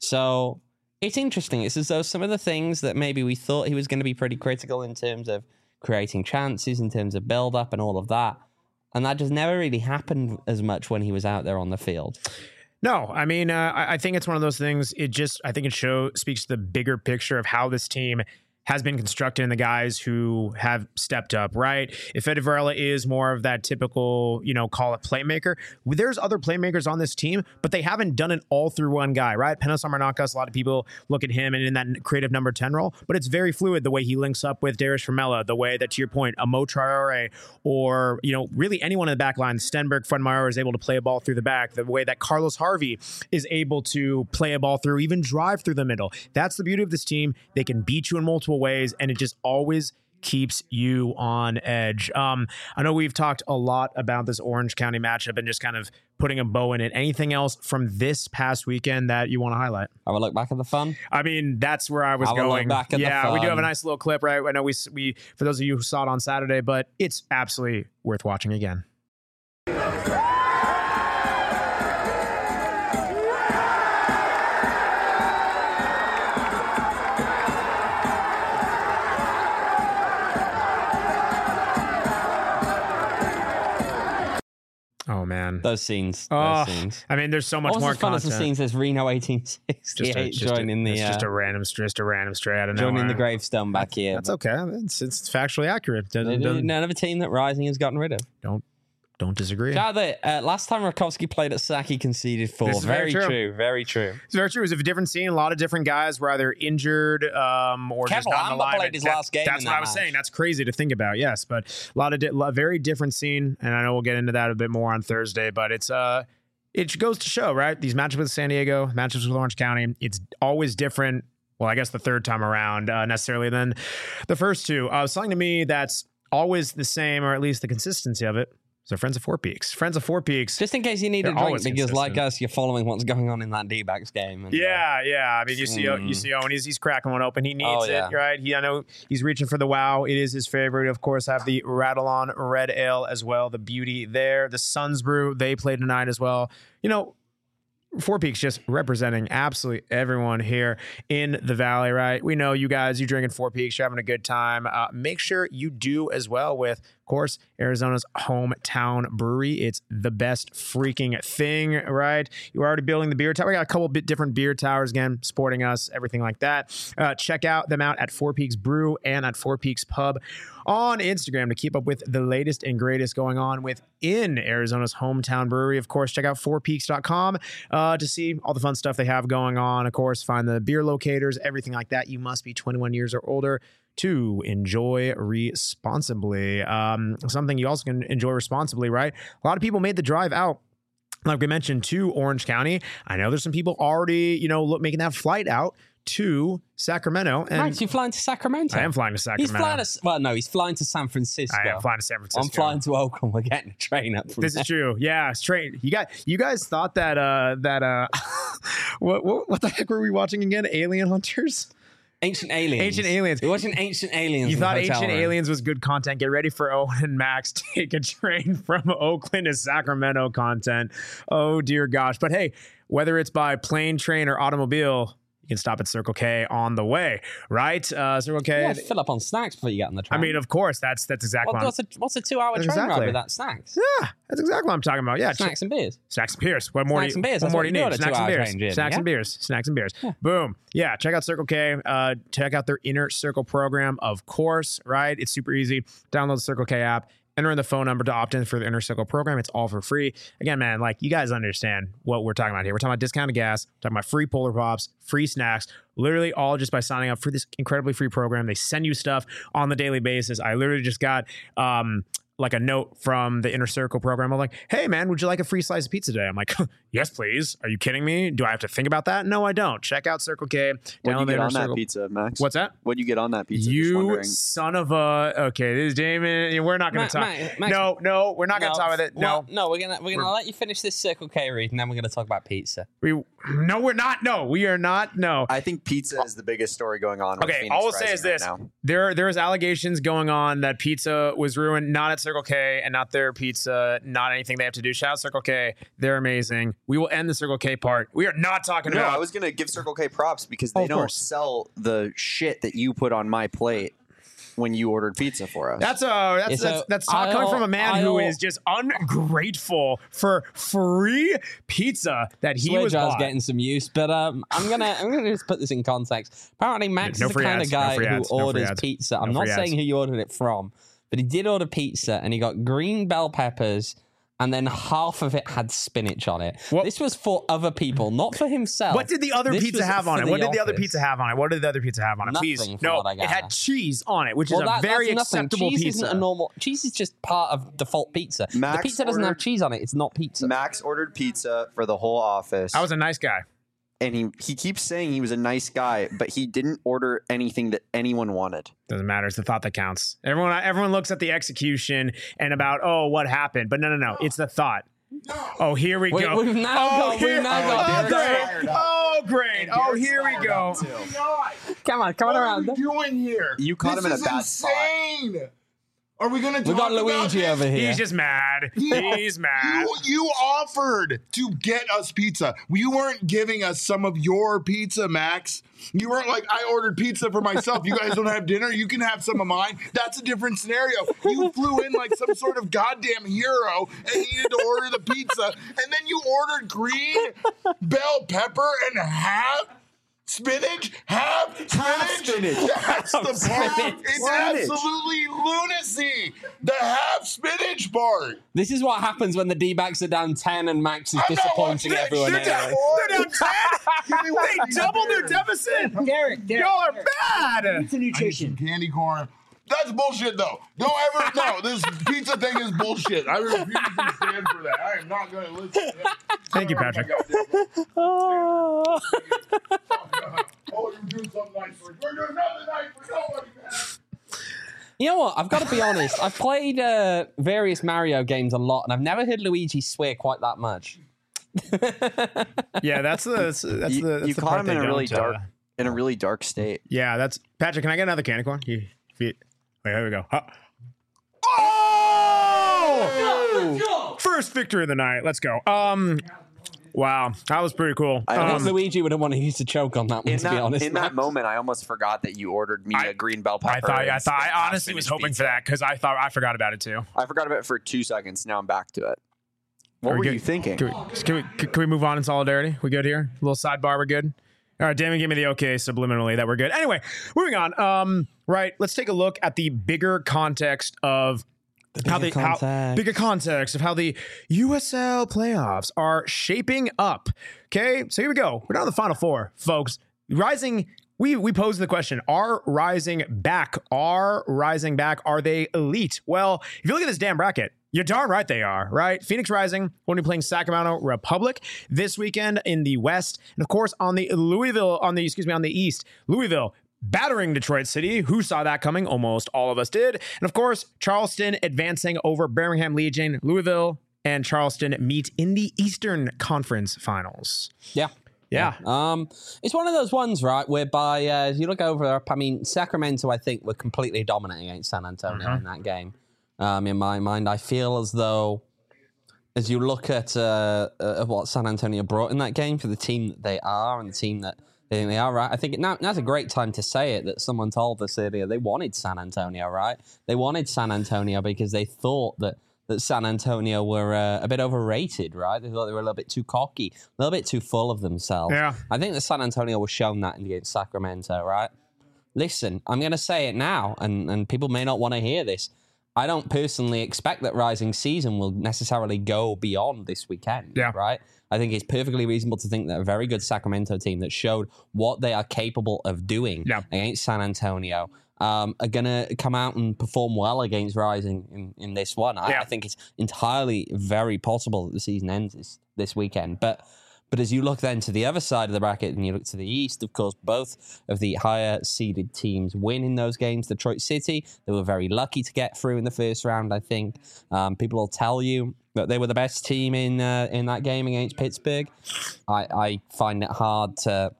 Speaker 2: So it's interesting. It's as though some of the things that maybe we thought he was going to be pretty critical in terms of creating chances, in terms of build-up and all of that, and that just never really happened as much when he was out there on the field.
Speaker 1: No, I mean, uh, I think it's one of those things. It just, I think it show speaks to the bigger picture of how this team has been constructed and the guys who have stepped up, right? If Fede Varela is more of that typical, you know, call it playmaker, there's other playmakers on this team, but they haven't done it all through one guy, right? Panos Armanakis, a lot of people look at him and in that creative number ten role, but it's very fluid the way he links up with Darius Vermella, the way that, to your point, a Mo Traore or, you know, really anyone in the back line, Stenberg, Fuenmayor is able to play a ball through the back, the way that Carlos Harvey is able to play a ball through, even drive through the middle. That's the beauty of this team. They can beat you in multiple ways, and it just always keeps you on edge. Um, I know we've talked a lot about this Orange County matchup and just kind of putting a bow in it. Anything else from this past weekend that you want to highlight?
Speaker 2: Have a look back at the fun.
Speaker 1: I mean, that's where I was
Speaker 2: Have a look
Speaker 1: going.
Speaker 2: back at the
Speaker 1: yeah, we do have a
Speaker 2: fun.
Speaker 1: nice little clip, right? I know we we for those of you who saw it on Saturday, but it's absolutely worth watching again. Oh man,
Speaker 2: Those scenes.
Speaker 1: Oh,
Speaker 2: Those scenes.
Speaker 1: I mean, there's so much
Speaker 2: Almost
Speaker 1: more
Speaker 2: as fun
Speaker 1: content.
Speaker 2: as the scenes as Reno eighteen
Speaker 1: Just a,
Speaker 2: sixty-eight
Speaker 1: just a-
Speaker 2: joining the
Speaker 1: it's just
Speaker 2: uh,
Speaker 1: a random, just a random stray out of
Speaker 2: joining
Speaker 1: nowhere.
Speaker 2: the gravestone back here.
Speaker 1: That's okay. It's, it's factually accurate. Doesn't, doesn't,
Speaker 2: None of a team that Rising has gotten rid of.
Speaker 1: don't don't disagree.
Speaker 2: Shout out that uh, last time Rakowski played at Sac, he conceded four.
Speaker 1: This is very
Speaker 2: Very,
Speaker 1: true.
Speaker 2: true. Very true.
Speaker 1: It's very true. It was a different scene. A lot of different guys were either injured um, or
Speaker 2: Kevin
Speaker 1: just not in the
Speaker 2: Lambert
Speaker 1: line.
Speaker 2: played his
Speaker 1: That-
Speaker 2: last game
Speaker 1: That's
Speaker 2: in
Speaker 1: what
Speaker 2: that
Speaker 1: I was
Speaker 2: match.
Speaker 1: saying. That's crazy to think about. Yes, but a lot of di- lo- very different scene, and I know we'll get into that a bit more on Thursday. But it's uh, it goes to show, right? These matchups with San Diego, matchups with Orange County, it's always different. Well, I guess the third time around uh, necessarily than the first two. Uh, something to me that's always the same, or at least the consistency of it. So Friends of Four Peaks. Friends of Four Peaks.
Speaker 2: Just in case you need a
Speaker 1: They're
Speaker 2: drink,
Speaker 1: always
Speaker 2: because like
Speaker 1: consistent.
Speaker 2: us, you're following what's going on in that D-backs game. And, uh,
Speaker 1: Yeah, yeah. I mean, you see,
Speaker 2: Mm.
Speaker 1: you see Owen. He's, he's cracking one open. He needs
Speaker 2: Oh, yeah.
Speaker 1: it, right? He, I know he's reaching for the wow. It is his favorite. Of course, have the Rattle On Red Ale as well. The beauty there. The Suns Brew. They play tonight as well. You know, Four Peaks just representing absolutely everyone here in the Valley, right? We know you guys, you drinking Four Peaks, you're having a good time. Uh, make sure you do as well with, of course, Arizona's hometown brewery. It's the best freaking thing, right? You're already building the beer tower. We got a couple bit different beer towers again, supporting us, everything like that. Uh, check out them out at Four Peaks Brew and at Four Peaks Pub on Instagram to keep up with the latest and greatest going on within Arizona's hometown brewery. Of course, check out four peaks dot com uh, to see all the fun stuff they have going on. Of course, find the beer locators, everything like that. You must be twenty-one years or older to enjoy responsibly. Um, something you also can enjoy responsibly, right? A lot of people made the drive out, like we mentioned, to Orange County. I know there's some people already, you know, look, making that flight out to Sacramento. And
Speaker 2: Max, you flying to Sacramento?
Speaker 1: I am flying to Sacramento.
Speaker 2: He's flying to, well, no, he's flying to San Francisco.
Speaker 1: I am flying to San Francisco.
Speaker 2: I'm flying to Oakland. We're getting a train up from
Speaker 1: This
Speaker 2: there.
Speaker 1: is true. Yeah, straight. You got you guys thought that uh that uh what, what what the heck were we watching again? Alien Hunters?
Speaker 2: Ancient Aliens.
Speaker 1: Ancient Aliens.
Speaker 2: We're watching Ancient Aliens.
Speaker 1: You
Speaker 2: in the
Speaker 1: thought
Speaker 2: hotel
Speaker 1: Ancient
Speaker 2: room.
Speaker 1: Aliens was good content. Get ready for Owen and Max take a train from Oakland to Sacramento content. Oh dear gosh. But hey, whether it's by plane, train, or automobile, you can stop at Circle K on the way, right? Uh, Circle K.
Speaker 2: Yeah, fill up on snacks before you get on the
Speaker 1: I
Speaker 2: train.
Speaker 1: mean, of course, that's that's exactly
Speaker 2: What-
Speaker 1: what
Speaker 2: what's a what's a two-hour
Speaker 1: That's
Speaker 2: train
Speaker 1: exactly.
Speaker 2: ride without snacks?
Speaker 1: I'm, yeah, that's exactly what I'm talking about. Yeah,
Speaker 2: Snacks and beers.
Speaker 1: Snacks and beers. What more
Speaker 2: Snacks
Speaker 1: do
Speaker 2: and
Speaker 1: you,
Speaker 2: beers.
Speaker 1: What
Speaker 2: That's
Speaker 1: more
Speaker 2: what
Speaker 1: do
Speaker 2: you
Speaker 1: you
Speaker 2: do
Speaker 1: need?
Speaker 2: at a
Speaker 1: Snacks and
Speaker 2: two-hour
Speaker 1: beers.
Speaker 2: train journey,
Speaker 1: Snacks
Speaker 2: yeah?
Speaker 1: and beers. Snacks and beers. Boom. Yeah. Check out Circle K. Uh, check out their Inner Circle program, of course. Right. It's super easy. Download the Circle K app. Enter in the phone number to opt in for the Inner Circle program. It's all for free. Again, man, like you guys understand what we're talking about here. We're talking about discounted gas, we're talking about free Polar Pops, free snacks, literally all just by signing up for this incredibly free program. They send you stuff on the daily basis. I literally just got um, like a note from the Inner Circle program. I'm like, hey, man, would you like a free slice of pizza today? I'm like, yes, please. Are you kidding me? Do I have to think about that? No, I don't. Check out Circle K.
Speaker 3: What
Speaker 1: Download
Speaker 3: do you
Speaker 1: the
Speaker 3: get
Speaker 1: Inner
Speaker 3: on that
Speaker 1: Circle-
Speaker 3: pizza, Max?
Speaker 1: What's that?
Speaker 3: What do you get on that pizza? Just
Speaker 1: You
Speaker 3: wondering.
Speaker 1: son of a. Okay, this is Damon. We're not going
Speaker 2: Ma-
Speaker 1: to talk.
Speaker 2: Ma- Max-
Speaker 1: no, no, we're not going to talk with it. No,
Speaker 2: Well, no, we're gonna we're gonna let you finish this Circle K read, and then we're gonna talk about pizza.
Speaker 1: we. No, we're not. No, we are not. No.
Speaker 3: I think pizza is the biggest story going on. with
Speaker 1: Okay,
Speaker 3: Phoenix
Speaker 1: all I'll say
Speaker 3: Rising
Speaker 1: is
Speaker 3: right
Speaker 1: this:
Speaker 3: now.
Speaker 1: there, there is allegations going on that pizza was ruined, not at Circle K and not their pizza, not anything they have to do. Shout out Circle K, they're amazing. We will end the Circle K part. We are not talking
Speaker 3: No,
Speaker 1: about.
Speaker 3: I was gonna give Circle K props because
Speaker 1: Oh,
Speaker 3: they
Speaker 1: of
Speaker 3: don't
Speaker 1: course.
Speaker 3: sell the shit that you put on my plate when you ordered pizza for us.
Speaker 1: That's uh that's
Speaker 2: Yeah, so
Speaker 1: that's that's talk coming
Speaker 2: I'll-
Speaker 1: from a man who
Speaker 2: I'll-
Speaker 1: is just ungrateful for free pizza that he
Speaker 2: Switch,
Speaker 1: was
Speaker 2: I was
Speaker 1: bought.
Speaker 2: getting some use, but um, I'm gonna I'm gonna just put this in context. Apparently, Max
Speaker 1: No
Speaker 2: is the
Speaker 1: free
Speaker 2: kind
Speaker 1: ads,
Speaker 2: of
Speaker 1: no
Speaker 2: guy
Speaker 1: free
Speaker 2: who
Speaker 1: ads, no free
Speaker 2: orders
Speaker 1: ads.
Speaker 2: pizza. I'm
Speaker 1: No
Speaker 2: not
Speaker 1: free
Speaker 2: saying
Speaker 1: ads.
Speaker 2: who he ordered it from, but he did order pizza, and he got green bell peppers. And then half of it had spinach on it.
Speaker 1: What-
Speaker 2: This was for other people, not for himself.
Speaker 1: What did the other
Speaker 2: This
Speaker 1: pizza
Speaker 2: was
Speaker 1: have on
Speaker 2: for
Speaker 1: it? What did the other
Speaker 2: office.
Speaker 1: pizza have on it? What did the other pizza have on it? Please,
Speaker 2: Nothing from
Speaker 1: no,
Speaker 2: what I
Speaker 1: it had
Speaker 2: gather.
Speaker 1: cheese on it, which
Speaker 2: Well,
Speaker 1: is
Speaker 2: that-
Speaker 1: a very
Speaker 2: that's nothing.
Speaker 1: acceptable
Speaker 2: cheese
Speaker 1: pizza.
Speaker 2: Isn't a normal cheese is just part of default pizza.
Speaker 3: Max
Speaker 2: the pizza doesn't have
Speaker 3: ordered-
Speaker 2: cheese on it. It's not pizza.
Speaker 3: Max ordered pizza for the whole office.
Speaker 1: I was a nice guy.
Speaker 3: and he he keeps saying he was a nice guy, but he didn't order anything that anyone wanted.
Speaker 1: Doesn't matter. It's the thought that counts. Everyone, everyone looks at the execution and about, oh, what happened? But no, no, no. It's the thought. Oh, here we
Speaker 2: we,
Speaker 1: go.
Speaker 2: We've now
Speaker 1: oh,
Speaker 2: got,
Speaker 1: here,
Speaker 2: we've now
Speaker 1: oh,
Speaker 2: got
Speaker 1: great. Oh, great. Oh, here we go.
Speaker 2: Come on, come on
Speaker 6: what
Speaker 2: around.
Speaker 6: What are we doing here?
Speaker 3: You caught
Speaker 6: this
Speaker 3: him in a
Speaker 6: is
Speaker 3: bad
Speaker 6: insane. Spot. Are we going to talk
Speaker 2: We got
Speaker 6: about
Speaker 2: Luigi
Speaker 6: this?
Speaker 2: over here.
Speaker 1: He's just mad. He's mad.
Speaker 6: You, you offered to get us pizza. You weren't giving us some of your pizza, Max. You weren't like, I ordered pizza for myself. You guys don't have dinner. You can have some of mine. That's a different scenario. You flew in like some sort of goddamn hero and needed to order the pizza. And then you ordered green bell pepper and half spinach, half spinach.
Speaker 3: Half spinach.
Speaker 6: That's the part.
Speaker 3: Spinach.
Speaker 6: It's
Speaker 3: Spinach.
Speaker 6: absolutely lunacy. The half spinach part.
Speaker 2: This is what happens when the D-backs are down ten and Max is
Speaker 6: I'm not
Speaker 2: disappointing
Speaker 6: watching that
Speaker 2: everyone.
Speaker 6: shit
Speaker 2: anyway.
Speaker 6: anymore.
Speaker 1: They're down ten. They doubled their deficit.
Speaker 7: Derek, Derek.
Speaker 1: Y'all are bad.
Speaker 7: Pizza
Speaker 6: I need
Speaker 7: nutrition.
Speaker 6: some candy corn. That's bullshit, though. Don't ever, no, this pizza thing is bullshit. I refuse to stand for that. I am not going to listen to it.
Speaker 1: Thank you, Patrick.
Speaker 6: Oh, you're doing something nice for We're doing nothing nice for nobody, man.
Speaker 2: You know what? I've got to be honest. I've played uh, various Mario games a lot, and I've never heard Luigi swear quite that much.
Speaker 1: Yeah, that's the that's, that's
Speaker 3: You,
Speaker 1: the that's
Speaker 3: you
Speaker 1: the
Speaker 3: caught
Speaker 1: part
Speaker 3: him
Speaker 1: they
Speaker 3: in a really
Speaker 1: don't, uh,
Speaker 3: dark, in a really dark state.
Speaker 1: Yeah, that's Patrick. Can I get another candy corn? You, if you, wait, here we go. Huh. Oh! First victory of the night. Let's go. Um, wow, that was pretty cool.
Speaker 3: I
Speaker 2: I
Speaker 1: Um,
Speaker 2: think Luigi would have wanted you to choke on that one,
Speaker 3: In
Speaker 2: to
Speaker 3: that,
Speaker 2: be honest.
Speaker 3: in that
Speaker 2: Max.
Speaker 3: moment, I almost forgot that you ordered me
Speaker 1: I-
Speaker 3: a green bell pepper.
Speaker 1: I thought, I
Speaker 3: and
Speaker 1: thought, I
Speaker 3: half
Speaker 1: honestly was
Speaker 3: spinach
Speaker 1: hoping
Speaker 3: pizza.
Speaker 1: for that because I thought I forgot about it too.
Speaker 3: I forgot about it for two seconds. Now I'm back to it. What
Speaker 1: Are we
Speaker 3: were
Speaker 1: good?
Speaker 3: you thinking?
Speaker 1: Can we, can we can we move on in solidarity? We good here? A little sidebar. We're good. All right, Damon, give me the okay subliminally that we're good. Anyway, moving on. Um, right, let's take a look at the bigger context of how the
Speaker 2: bigger
Speaker 1: how,
Speaker 2: context.
Speaker 1: bigger context of how the U S L playoffs are shaping up. Okay, so here we go. We're down to the final four, folks. Rising. We we posed the question: Are Rising back? Are Rising back? Are they elite? Well, if you look at this damn bracket, you're darn right they are, right? Phoenix Rising will be playing Sacramento Republic this weekend in the West. And of course, on the Louisville, on the, excuse me, on the East, Louisville battering Detroit City. Who saw that coming? Almost all of us did. And of course, Charleston advancing over Birmingham Legion. Louisville and Charleston meet in the Eastern Conference Finals.
Speaker 2: Yeah.
Speaker 1: Yeah.
Speaker 2: Um, it's one of those ones, right, whereby uh, as you look over, I mean, Sacramento, I think, were completely dominant against San Antonio
Speaker 1: Uh-huh.
Speaker 2: in that game. Um, in my mind, I feel as though, as you look at uh, uh, what San Antonio brought in that game for the team that they are and the team that they think they are, right? I think it, now, now's a great time to say it, that someone told us earlier they wanted San Antonio, right? They wanted San Antonio because they thought that that San Antonio were uh, a bit overrated, right? They thought they were a little bit too cocky, a little bit too full of themselves.
Speaker 1: Yeah.
Speaker 2: I think that San Antonio was shown that against Sacramento, right? Listen, I'm going to say it now, and, and people may not want to hear this. I don't personally expect that Rising season will necessarily go beyond this weekend,
Speaker 1: Yeah.
Speaker 2: right? I think it's perfectly reasonable to think that a very good Sacramento team that showed what they are capable of doing
Speaker 1: Yeah.
Speaker 2: against San Antonio um, are going to come out and perform well against Rising in, in this one. I,
Speaker 1: Yeah.
Speaker 2: I think it's entirely very possible that the season ends this, this weekend. But but as you look then to the other side of the bracket and you look to the East, of course, both of the higher seeded teams win in those games. Detroit City, they were very lucky to get through in the first round, I think. Um, people will tell you that they were the best team in uh, in that game against Pittsburgh. I, I find it hard to,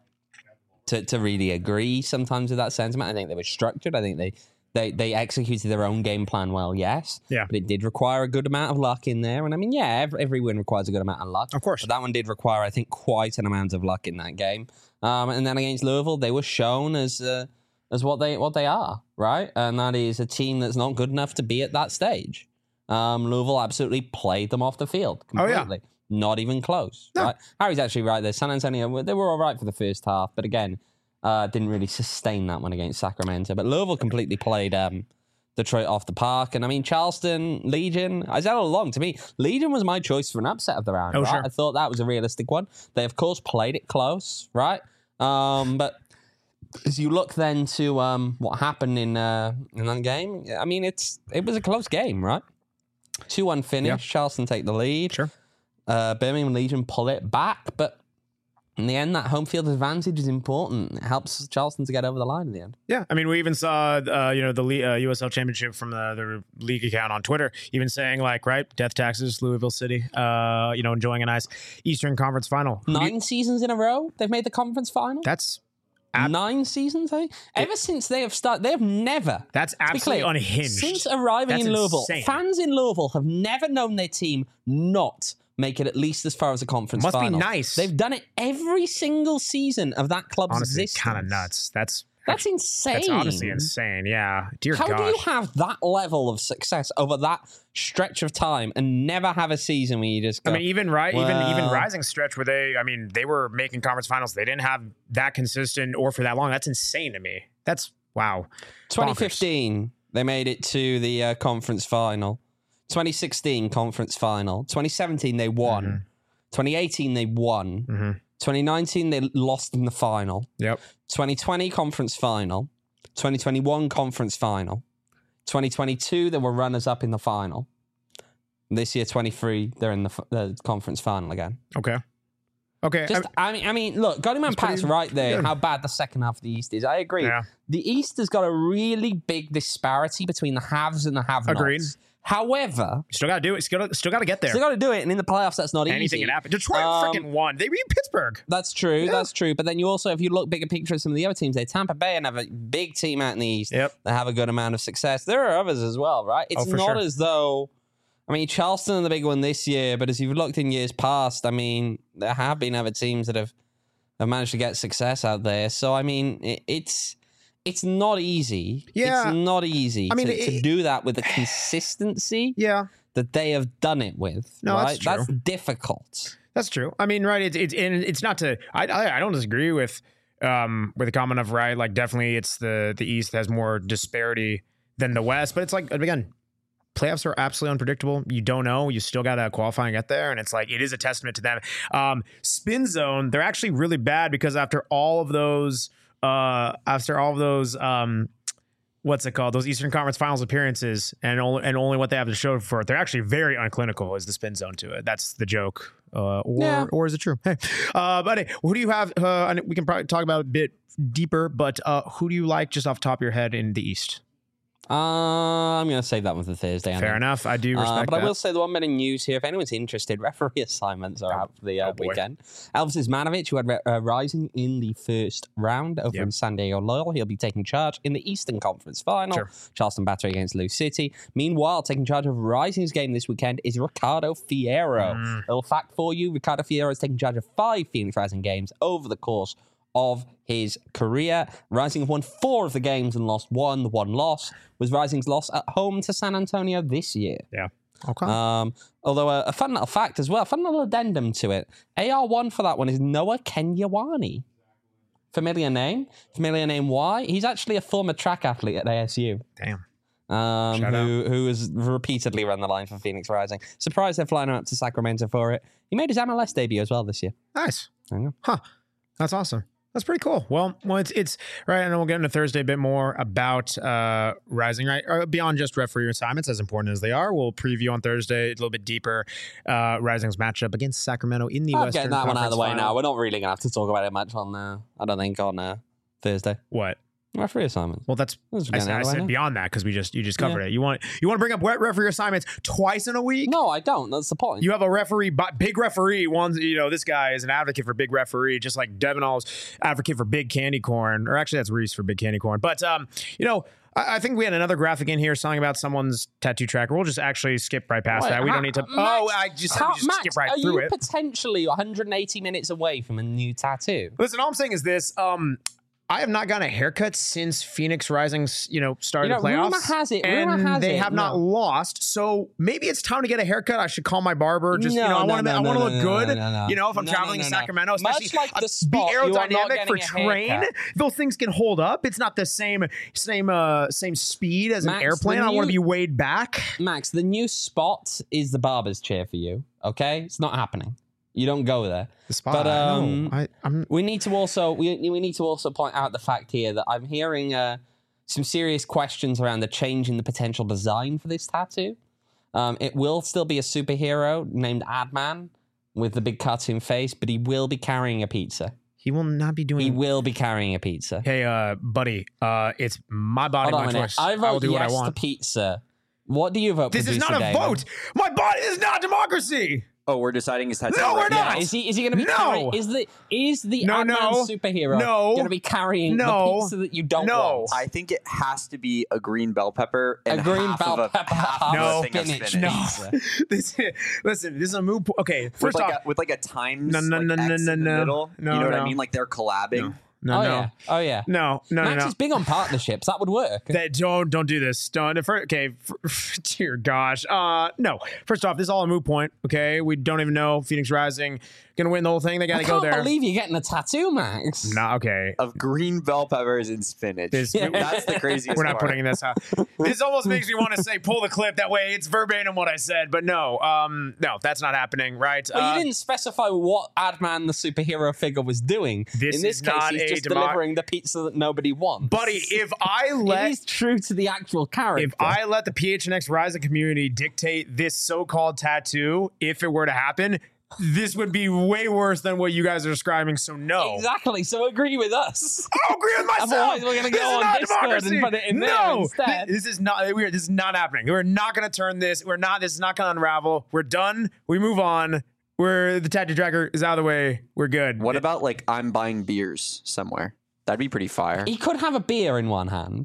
Speaker 2: to to really agree sometimes with that sentiment. I think they were structured. I think they They they executed their own game plan well, yes.
Speaker 1: Yeah.
Speaker 2: But it did require a good amount of luck in there. And I mean, yeah, every, every win requires a good amount of luck.
Speaker 1: Of course.
Speaker 2: But that one did require, I think, quite an amount of luck in that game. Um, and then against Louisville, they were shown as uh, as what they what they are, right? And that is a team that's not good enough to be at that stage. Um, Louisville absolutely played them off the field
Speaker 1: Oh, yeah.
Speaker 2: completely. Not even close.
Speaker 1: No.
Speaker 2: Right? Harry's actually right there. San Antonio, they were all right for the first half. But again, uh, didn't really sustain that one against Sacramento. But Louisville completely played... Um, Detroit off the park. And I mean, Charleston, Legion, I said all along, to me, Legion was my choice for an upset of the round.
Speaker 1: Oh,
Speaker 2: right?
Speaker 1: sure.
Speaker 2: I thought that was a realistic one. They, of course, played it close, right? Um, but as you look then to um, what happened in uh, in that game, I mean, it's it was a close game, right? two one finish.
Speaker 1: Yeah.
Speaker 2: Charleston take the lead.
Speaker 1: Sure.
Speaker 2: Uh, Birmingham Legion pull it back, but In the end, that home field advantage is important. It helps Charleston to get over the line in the end.
Speaker 7: Yeah, I mean, we even saw, uh, you know, the uh, U S L Championship from the, the league account on Twitter, even saying like, right, death taxes, Louisville City, uh, you know, enjoying a nice Eastern Conference final.
Speaker 2: Nine you, seasons in a row, they've made the conference final.
Speaker 7: That's
Speaker 2: ab- nine seasons, eh? Ever it, since they have started, they have never.
Speaker 7: That's absolutely clear, unhinged.
Speaker 2: Since arriving
Speaker 7: that's
Speaker 2: in Louisville,
Speaker 7: insane.
Speaker 2: Fans in Louisville have never known their team not make it at least as far as a conference
Speaker 7: Must
Speaker 2: final.
Speaker 7: Must be nice.
Speaker 2: They've done it every single season of that club's
Speaker 7: honestly,
Speaker 2: existence.
Speaker 7: kind of nuts. That's
Speaker 2: that's insane.
Speaker 7: That's honestly insane. Yeah. Dear
Speaker 2: How
Speaker 7: gosh.
Speaker 2: do you have that level of success over that stretch of time and never have a season where you just go,
Speaker 7: I mean, even right,
Speaker 2: well,
Speaker 7: even even Rising stretch where they, I mean, they were making conference finals. They didn't have that consistent or for that long. That's insane to me. That's wow.
Speaker 2: twenty fifteen, bonkers. They made it to the uh, conference final. twenty sixteen conference final. twenty seventeen they won. Mm-hmm. twenty eighteen they won.
Speaker 7: Mm-hmm.
Speaker 2: twenty nineteen they lost in the final.
Speaker 7: Yep.
Speaker 2: twenty twenty conference final. twenty twenty-one conference final. twenty twenty-two they were runners up in the final. This year twenty-three they're in the, the conference final again.
Speaker 7: Okay. Okay.
Speaker 2: Just, I mean, I mean, look, Godyman Pat's right there.
Speaker 7: good.
Speaker 2: How bad the second half of the East is. I agree.
Speaker 7: Yeah.
Speaker 2: The East has got a really big disparity between the haves and the have-nots.
Speaker 7: Agreed.
Speaker 2: However,
Speaker 7: still got to do it. Still got still got to get there.
Speaker 2: still got to do it, and in the playoffs, that's not
Speaker 7: Anything
Speaker 2: easy.
Speaker 7: can happen. Detroit
Speaker 2: Um,
Speaker 7: freaking won. They beat Pittsburgh.
Speaker 2: That's true.
Speaker 7: Yeah.
Speaker 2: That's true. But then you also, if you look bigger picture at some of the other teams, they Tampa Bay and have a big team out in the East.
Speaker 7: Yep.
Speaker 2: That have a good amount of success. There are others as well, right? It's
Speaker 7: Oh, for
Speaker 2: not
Speaker 7: sure.
Speaker 2: as though. I mean, Charleston are the big one this year, but as you've looked in years past, I mean, there have been other teams that have, have managed to get success out there. So, I mean, it, it's it's not easy.
Speaker 7: Yeah.
Speaker 2: It's not easy
Speaker 7: I mean,
Speaker 2: to,
Speaker 7: it-
Speaker 2: to do that with the consistency
Speaker 7: Yeah.
Speaker 2: that they have done it with.
Speaker 7: No,
Speaker 2: right?
Speaker 7: that's true.
Speaker 2: That's difficult.
Speaker 7: That's true. I mean, right? It's it's and it's not to. I I, I don't disagree with um with the comment of right. Like definitely, it's the the East has more disparity than the West, but it's like again, playoffs are absolutely unpredictable. You don't know. You still got to qualify and get there, and it's like it is a testament to them. Um, Spin Zone, they're actually really bad because after all of those, uh, after all of those, um. What's it called? Those Eastern Conference Finals appearances, and only and only what they have to show for it. They're actually very unclinical. Is the spin zone to it? That's the joke, uh, or
Speaker 2: Yeah.
Speaker 7: or is it true? Hey, uh, but hey, who do you have? Uh, and we can probably talk about it a bit deeper. But uh, who do you like just off the top of your head in the East?
Speaker 2: Uh, I'm going to save that one for Thursday. I
Speaker 7: Fair
Speaker 2: think.
Speaker 7: enough. I do
Speaker 2: Uh,
Speaker 7: respect
Speaker 2: but
Speaker 7: that.
Speaker 2: I will say the one bit of news here. If anyone's interested, referee assignments are out for the uh,
Speaker 7: oh boy.
Speaker 2: weekend. Elvis Ismanovic, who had uh, Rising in the first round over
Speaker 7: Yep.
Speaker 2: in San Diego Loyal, he'll be taking charge in the Eastern Conference Final.
Speaker 7: Sure.
Speaker 2: Charleston Battery against Lou City. Meanwhile, taking charge of Rising's game this weekend is Ricardo Fierro.
Speaker 7: Mm.
Speaker 2: Little fact for you: Ricardo Fierro is taking charge of five Phoenix Rising games over the course of his career. Rising have won four of the games and lost one. The one loss was Rising's loss at home to San Antonio this year.
Speaker 7: Yeah. Okay.
Speaker 2: Um, although a, a fun little fact as well, a fun little addendum to it. A R one for that one is Noah Kenyawani. Familiar name? Familiar name why? He's actually a former track athlete at A S U.
Speaker 7: Damn.
Speaker 2: Um,
Speaker 7: Shout
Speaker 2: who, who has repeatedly run the line for Phoenix Rising. Surprised they're flying up to Sacramento for it. He made his M L S debut as well this year.
Speaker 7: Nice.
Speaker 2: There you go.
Speaker 7: Huh. That's awesome. That's pretty cool. Well, well, it's it's right, and we'll get into Thursday a bit more about uh, Rising. Right, or beyond just referee assignments, as important as they are, we'll preview on Thursday a little bit deeper uh, Rising's matchup against Sacramento in the
Speaker 2: I'm
Speaker 7: Western
Speaker 2: getting that one out of the way
Speaker 7: Conference
Speaker 2: now.
Speaker 7: Final.
Speaker 2: We're not really going to have to talk about it much on, uh, I don't think, on uh, Thursday.
Speaker 7: What?
Speaker 2: Referee assignments.
Speaker 7: Well, that's
Speaker 2: That's
Speaker 7: I
Speaker 2: getting
Speaker 7: said,
Speaker 2: out
Speaker 7: I
Speaker 2: of the way
Speaker 7: said
Speaker 2: now.
Speaker 7: beyond that because we just you just covered
Speaker 2: Yeah.
Speaker 7: it. You want you want to bring up wet referee assignments twice in a week?
Speaker 2: No, I don't. That's the point.
Speaker 7: You have a referee, but big referee. One, you know, this guy is an advocate for big referee, just like Devin All's advocate for big candy corn, or actually that's Reese for big candy corn. But um, you know, I, I think we had another graphic in here, something about someone's tattoo tracker. We'll just actually skip right past
Speaker 2: Wait,
Speaker 7: that. We
Speaker 2: how-
Speaker 7: don't need to.
Speaker 2: Max,
Speaker 7: oh, I just,
Speaker 2: how,
Speaker 7: we just
Speaker 2: Max,
Speaker 7: skip right
Speaker 2: are
Speaker 7: through
Speaker 2: you
Speaker 7: it.
Speaker 2: potentially one hundred eighty minutes away from a new tattoo?
Speaker 7: Listen, all I'm saying is this. Um, I have not gotten a haircut since Phoenix Rising's, you know, started
Speaker 2: You know,
Speaker 7: the playoffs.
Speaker 2: rumor has it-
Speaker 7: and
Speaker 2: rumor has
Speaker 7: they
Speaker 2: it,
Speaker 7: have not
Speaker 2: no.
Speaker 7: lost. So maybe it's time to get a haircut. I should call my barber. Just
Speaker 2: No,
Speaker 7: you know, I
Speaker 2: no,
Speaker 7: want to,
Speaker 2: no,
Speaker 7: I want to
Speaker 2: no,
Speaker 7: look
Speaker 2: no,
Speaker 7: good.
Speaker 2: no, no, no.
Speaker 7: You know, if I'm
Speaker 2: No,
Speaker 7: traveling
Speaker 2: no,
Speaker 7: to
Speaker 2: no, no.
Speaker 7: Sacramento,
Speaker 2: Much
Speaker 7: especially
Speaker 2: like the
Speaker 7: uh, be
Speaker 2: spot, you are not
Speaker 7: aerodynamic for
Speaker 2: getting a
Speaker 7: train.
Speaker 2: haircut.
Speaker 7: Those things can hold up. It's not the same same uh, same speed as
Speaker 2: Max,
Speaker 7: an airplane.
Speaker 2: the
Speaker 7: I want to
Speaker 2: new-
Speaker 7: be weighed back.
Speaker 2: Max, the new spot is the barber's chair for you. Okay, it's not happening. You don't go there.
Speaker 7: The spot.
Speaker 2: But, um,
Speaker 7: no, I, I'm.
Speaker 2: We need to also we we need to also point out the fact here that I'm hearing uh, some serious questions around the change in the potential design for this tattoo. Um, it will still be a superhero named Adman, with the big cartoon face, but he will be carrying a pizza.
Speaker 7: He will not be doing.
Speaker 2: He will be carrying a pizza.
Speaker 7: Hey, uh, buddy, uh, it's my body,
Speaker 2: Hold
Speaker 7: my
Speaker 2: on a minute.
Speaker 7: choice.
Speaker 2: I
Speaker 7: I will
Speaker 2: vote
Speaker 7: do
Speaker 2: yes
Speaker 7: what I
Speaker 2: to
Speaker 7: want.
Speaker 2: pizza. What do you vote?
Speaker 7: This is not a
Speaker 2: Producer Damon?
Speaker 7: vote. My body is not democracy.
Speaker 3: Oh, we're deciding his tattoo.
Speaker 7: No, we're
Speaker 3: right
Speaker 7: not.
Speaker 2: Yeah, is he? Is he going to be
Speaker 7: No.
Speaker 2: carrying? Is the is the
Speaker 7: No,
Speaker 2: Ant-Man
Speaker 7: no.
Speaker 2: superhero
Speaker 7: No.
Speaker 2: going to be carrying
Speaker 7: No.
Speaker 2: the pizza that you don't
Speaker 7: No.
Speaker 2: want?
Speaker 3: I think it has to be a green bell pepper and
Speaker 2: A green
Speaker 3: half
Speaker 2: bell
Speaker 3: of a,
Speaker 2: pepper,
Speaker 3: half
Speaker 2: half
Speaker 3: of
Speaker 7: No.
Speaker 3: a thing of
Speaker 2: spinach.
Speaker 3: spinach.
Speaker 2: No.
Speaker 7: this, listen, this is a mood. Po- okay,
Speaker 3: With
Speaker 7: first
Speaker 3: like,
Speaker 7: off,
Speaker 3: a, with like a times
Speaker 7: No, no,
Speaker 3: like
Speaker 7: no, no,
Speaker 3: X
Speaker 7: no,
Speaker 3: in the
Speaker 7: no.
Speaker 3: middle.
Speaker 7: No,
Speaker 3: you know what
Speaker 7: no.
Speaker 3: I mean? Like they're collabing.
Speaker 7: no,
Speaker 2: oh
Speaker 7: no,
Speaker 2: yeah. Oh yeah.
Speaker 7: no, no, no,
Speaker 2: Max
Speaker 7: no.
Speaker 2: is big on partnerships. That would work.
Speaker 7: That don't don't do this. Don't. For, okay, for, dear gosh. Uh, no. First off, this is all a moot point. Okay, we don't even know Phoenix Rising gonna win the whole thing. They gotta
Speaker 2: I
Speaker 7: go
Speaker 2: can't
Speaker 7: there.
Speaker 2: believe you're getting a tattoo, Max.
Speaker 7: Nah, okay.
Speaker 3: Of green bell peppers and spinach.
Speaker 7: This-
Speaker 3: That's the craziest
Speaker 7: We're not
Speaker 3: part.
Speaker 7: putting this out. This almost makes me want to say pull the clip. That way it's verbatim what I said. But no, um, no, that's not happening, right?
Speaker 2: Well,
Speaker 7: Uh,
Speaker 2: you didn't specify what Adman, the superhero figure, was doing.
Speaker 7: This
Speaker 2: In this
Speaker 7: is
Speaker 2: case,
Speaker 7: not
Speaker 2: he's
Speaker 7: a
Speaker 2: just
Speaker 7: demo-
Speaker 2: delivering the pizza that nobody wants.
Speaker 7: buddy, if I
Speaker 2: it
Speaker 7: let
Speaker 2: is true to the actual character.
Speaker 7: if I let the P H N X Rising community dictate this so-called tattoo, if it were to happen, this would be way worse than what you guys are describing. So no.
Speaker 2: Exactly. So agree with us.
Speaker 7: I agree with myself.
Speaker 2: Otherwise, we're gonna
Speaker 7: This
Speaker 2: go
Speaker 7: is
Speaker 2: on
Speaker 7: not
Speaker 2: Discord
Speaker 7: democracy.
Speaker 2: and put it in there
Speaker 7: no,
Speaker 2: instead.
Speaker 7: This is not weird. This is not happening. We're not going to turn this. We're not. This is not going to unravel. We're done. We move on. We're the tattoo tracker is out of the way. We're good.
Speaker 3: What about like I'm buying beers somewhere? That'd be pretty fire.
Speaker 2: He could have a beer in one hand.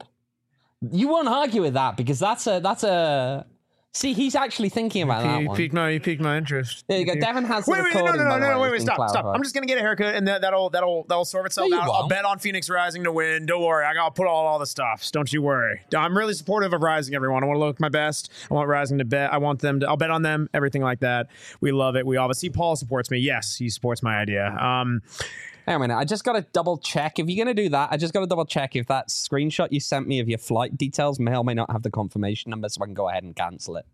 Speaker 2: You won't argue with that because that's a that's a. See, he's actually thinking about that
Speaker 7: You
Speaker 2: one.
Speaker 7: piqued my, you piqued my interest.
Speaker 2: There you go.
Speaker 7: You-
Speaker 2: Devin has the
Speaker 7: Wait, wait, no, no,
Speaker 2: recording,
Speaker 7: no,
Speaker 2: by the
Speaker 7: no, no,
Speaker 2: way,
Speaker 7: wait, wait,
Speaker 2: it's been
Speaker 7: stop, stop.
Speaker 2: clarified.
Speaker 7: I'm just gonna get a haircut, and that, that'll, that'll, that'll sort itself
Speaker 2: No, you
Speaker 7: out. I'll
Speaker 2: won't.
Speaker 7: bet on Phoenix Rising to win. Don't worry, I gotta put all, all the stops. Don't you worry. I'm really supportive of Rising, everyone. I want to look my best. I want Rising to bet. I want them to. I'll bet on them. Everything like that. We love it. We obviously Paul supports me. Yes, he supports my idea. Um,
Speaker 2: Hang on a minute. I just got to double check. If you're going to do that, I just got to double check if that screenshot you sent me of your flight details may or may not have the confirmation number, so I can go ahead and cancel it.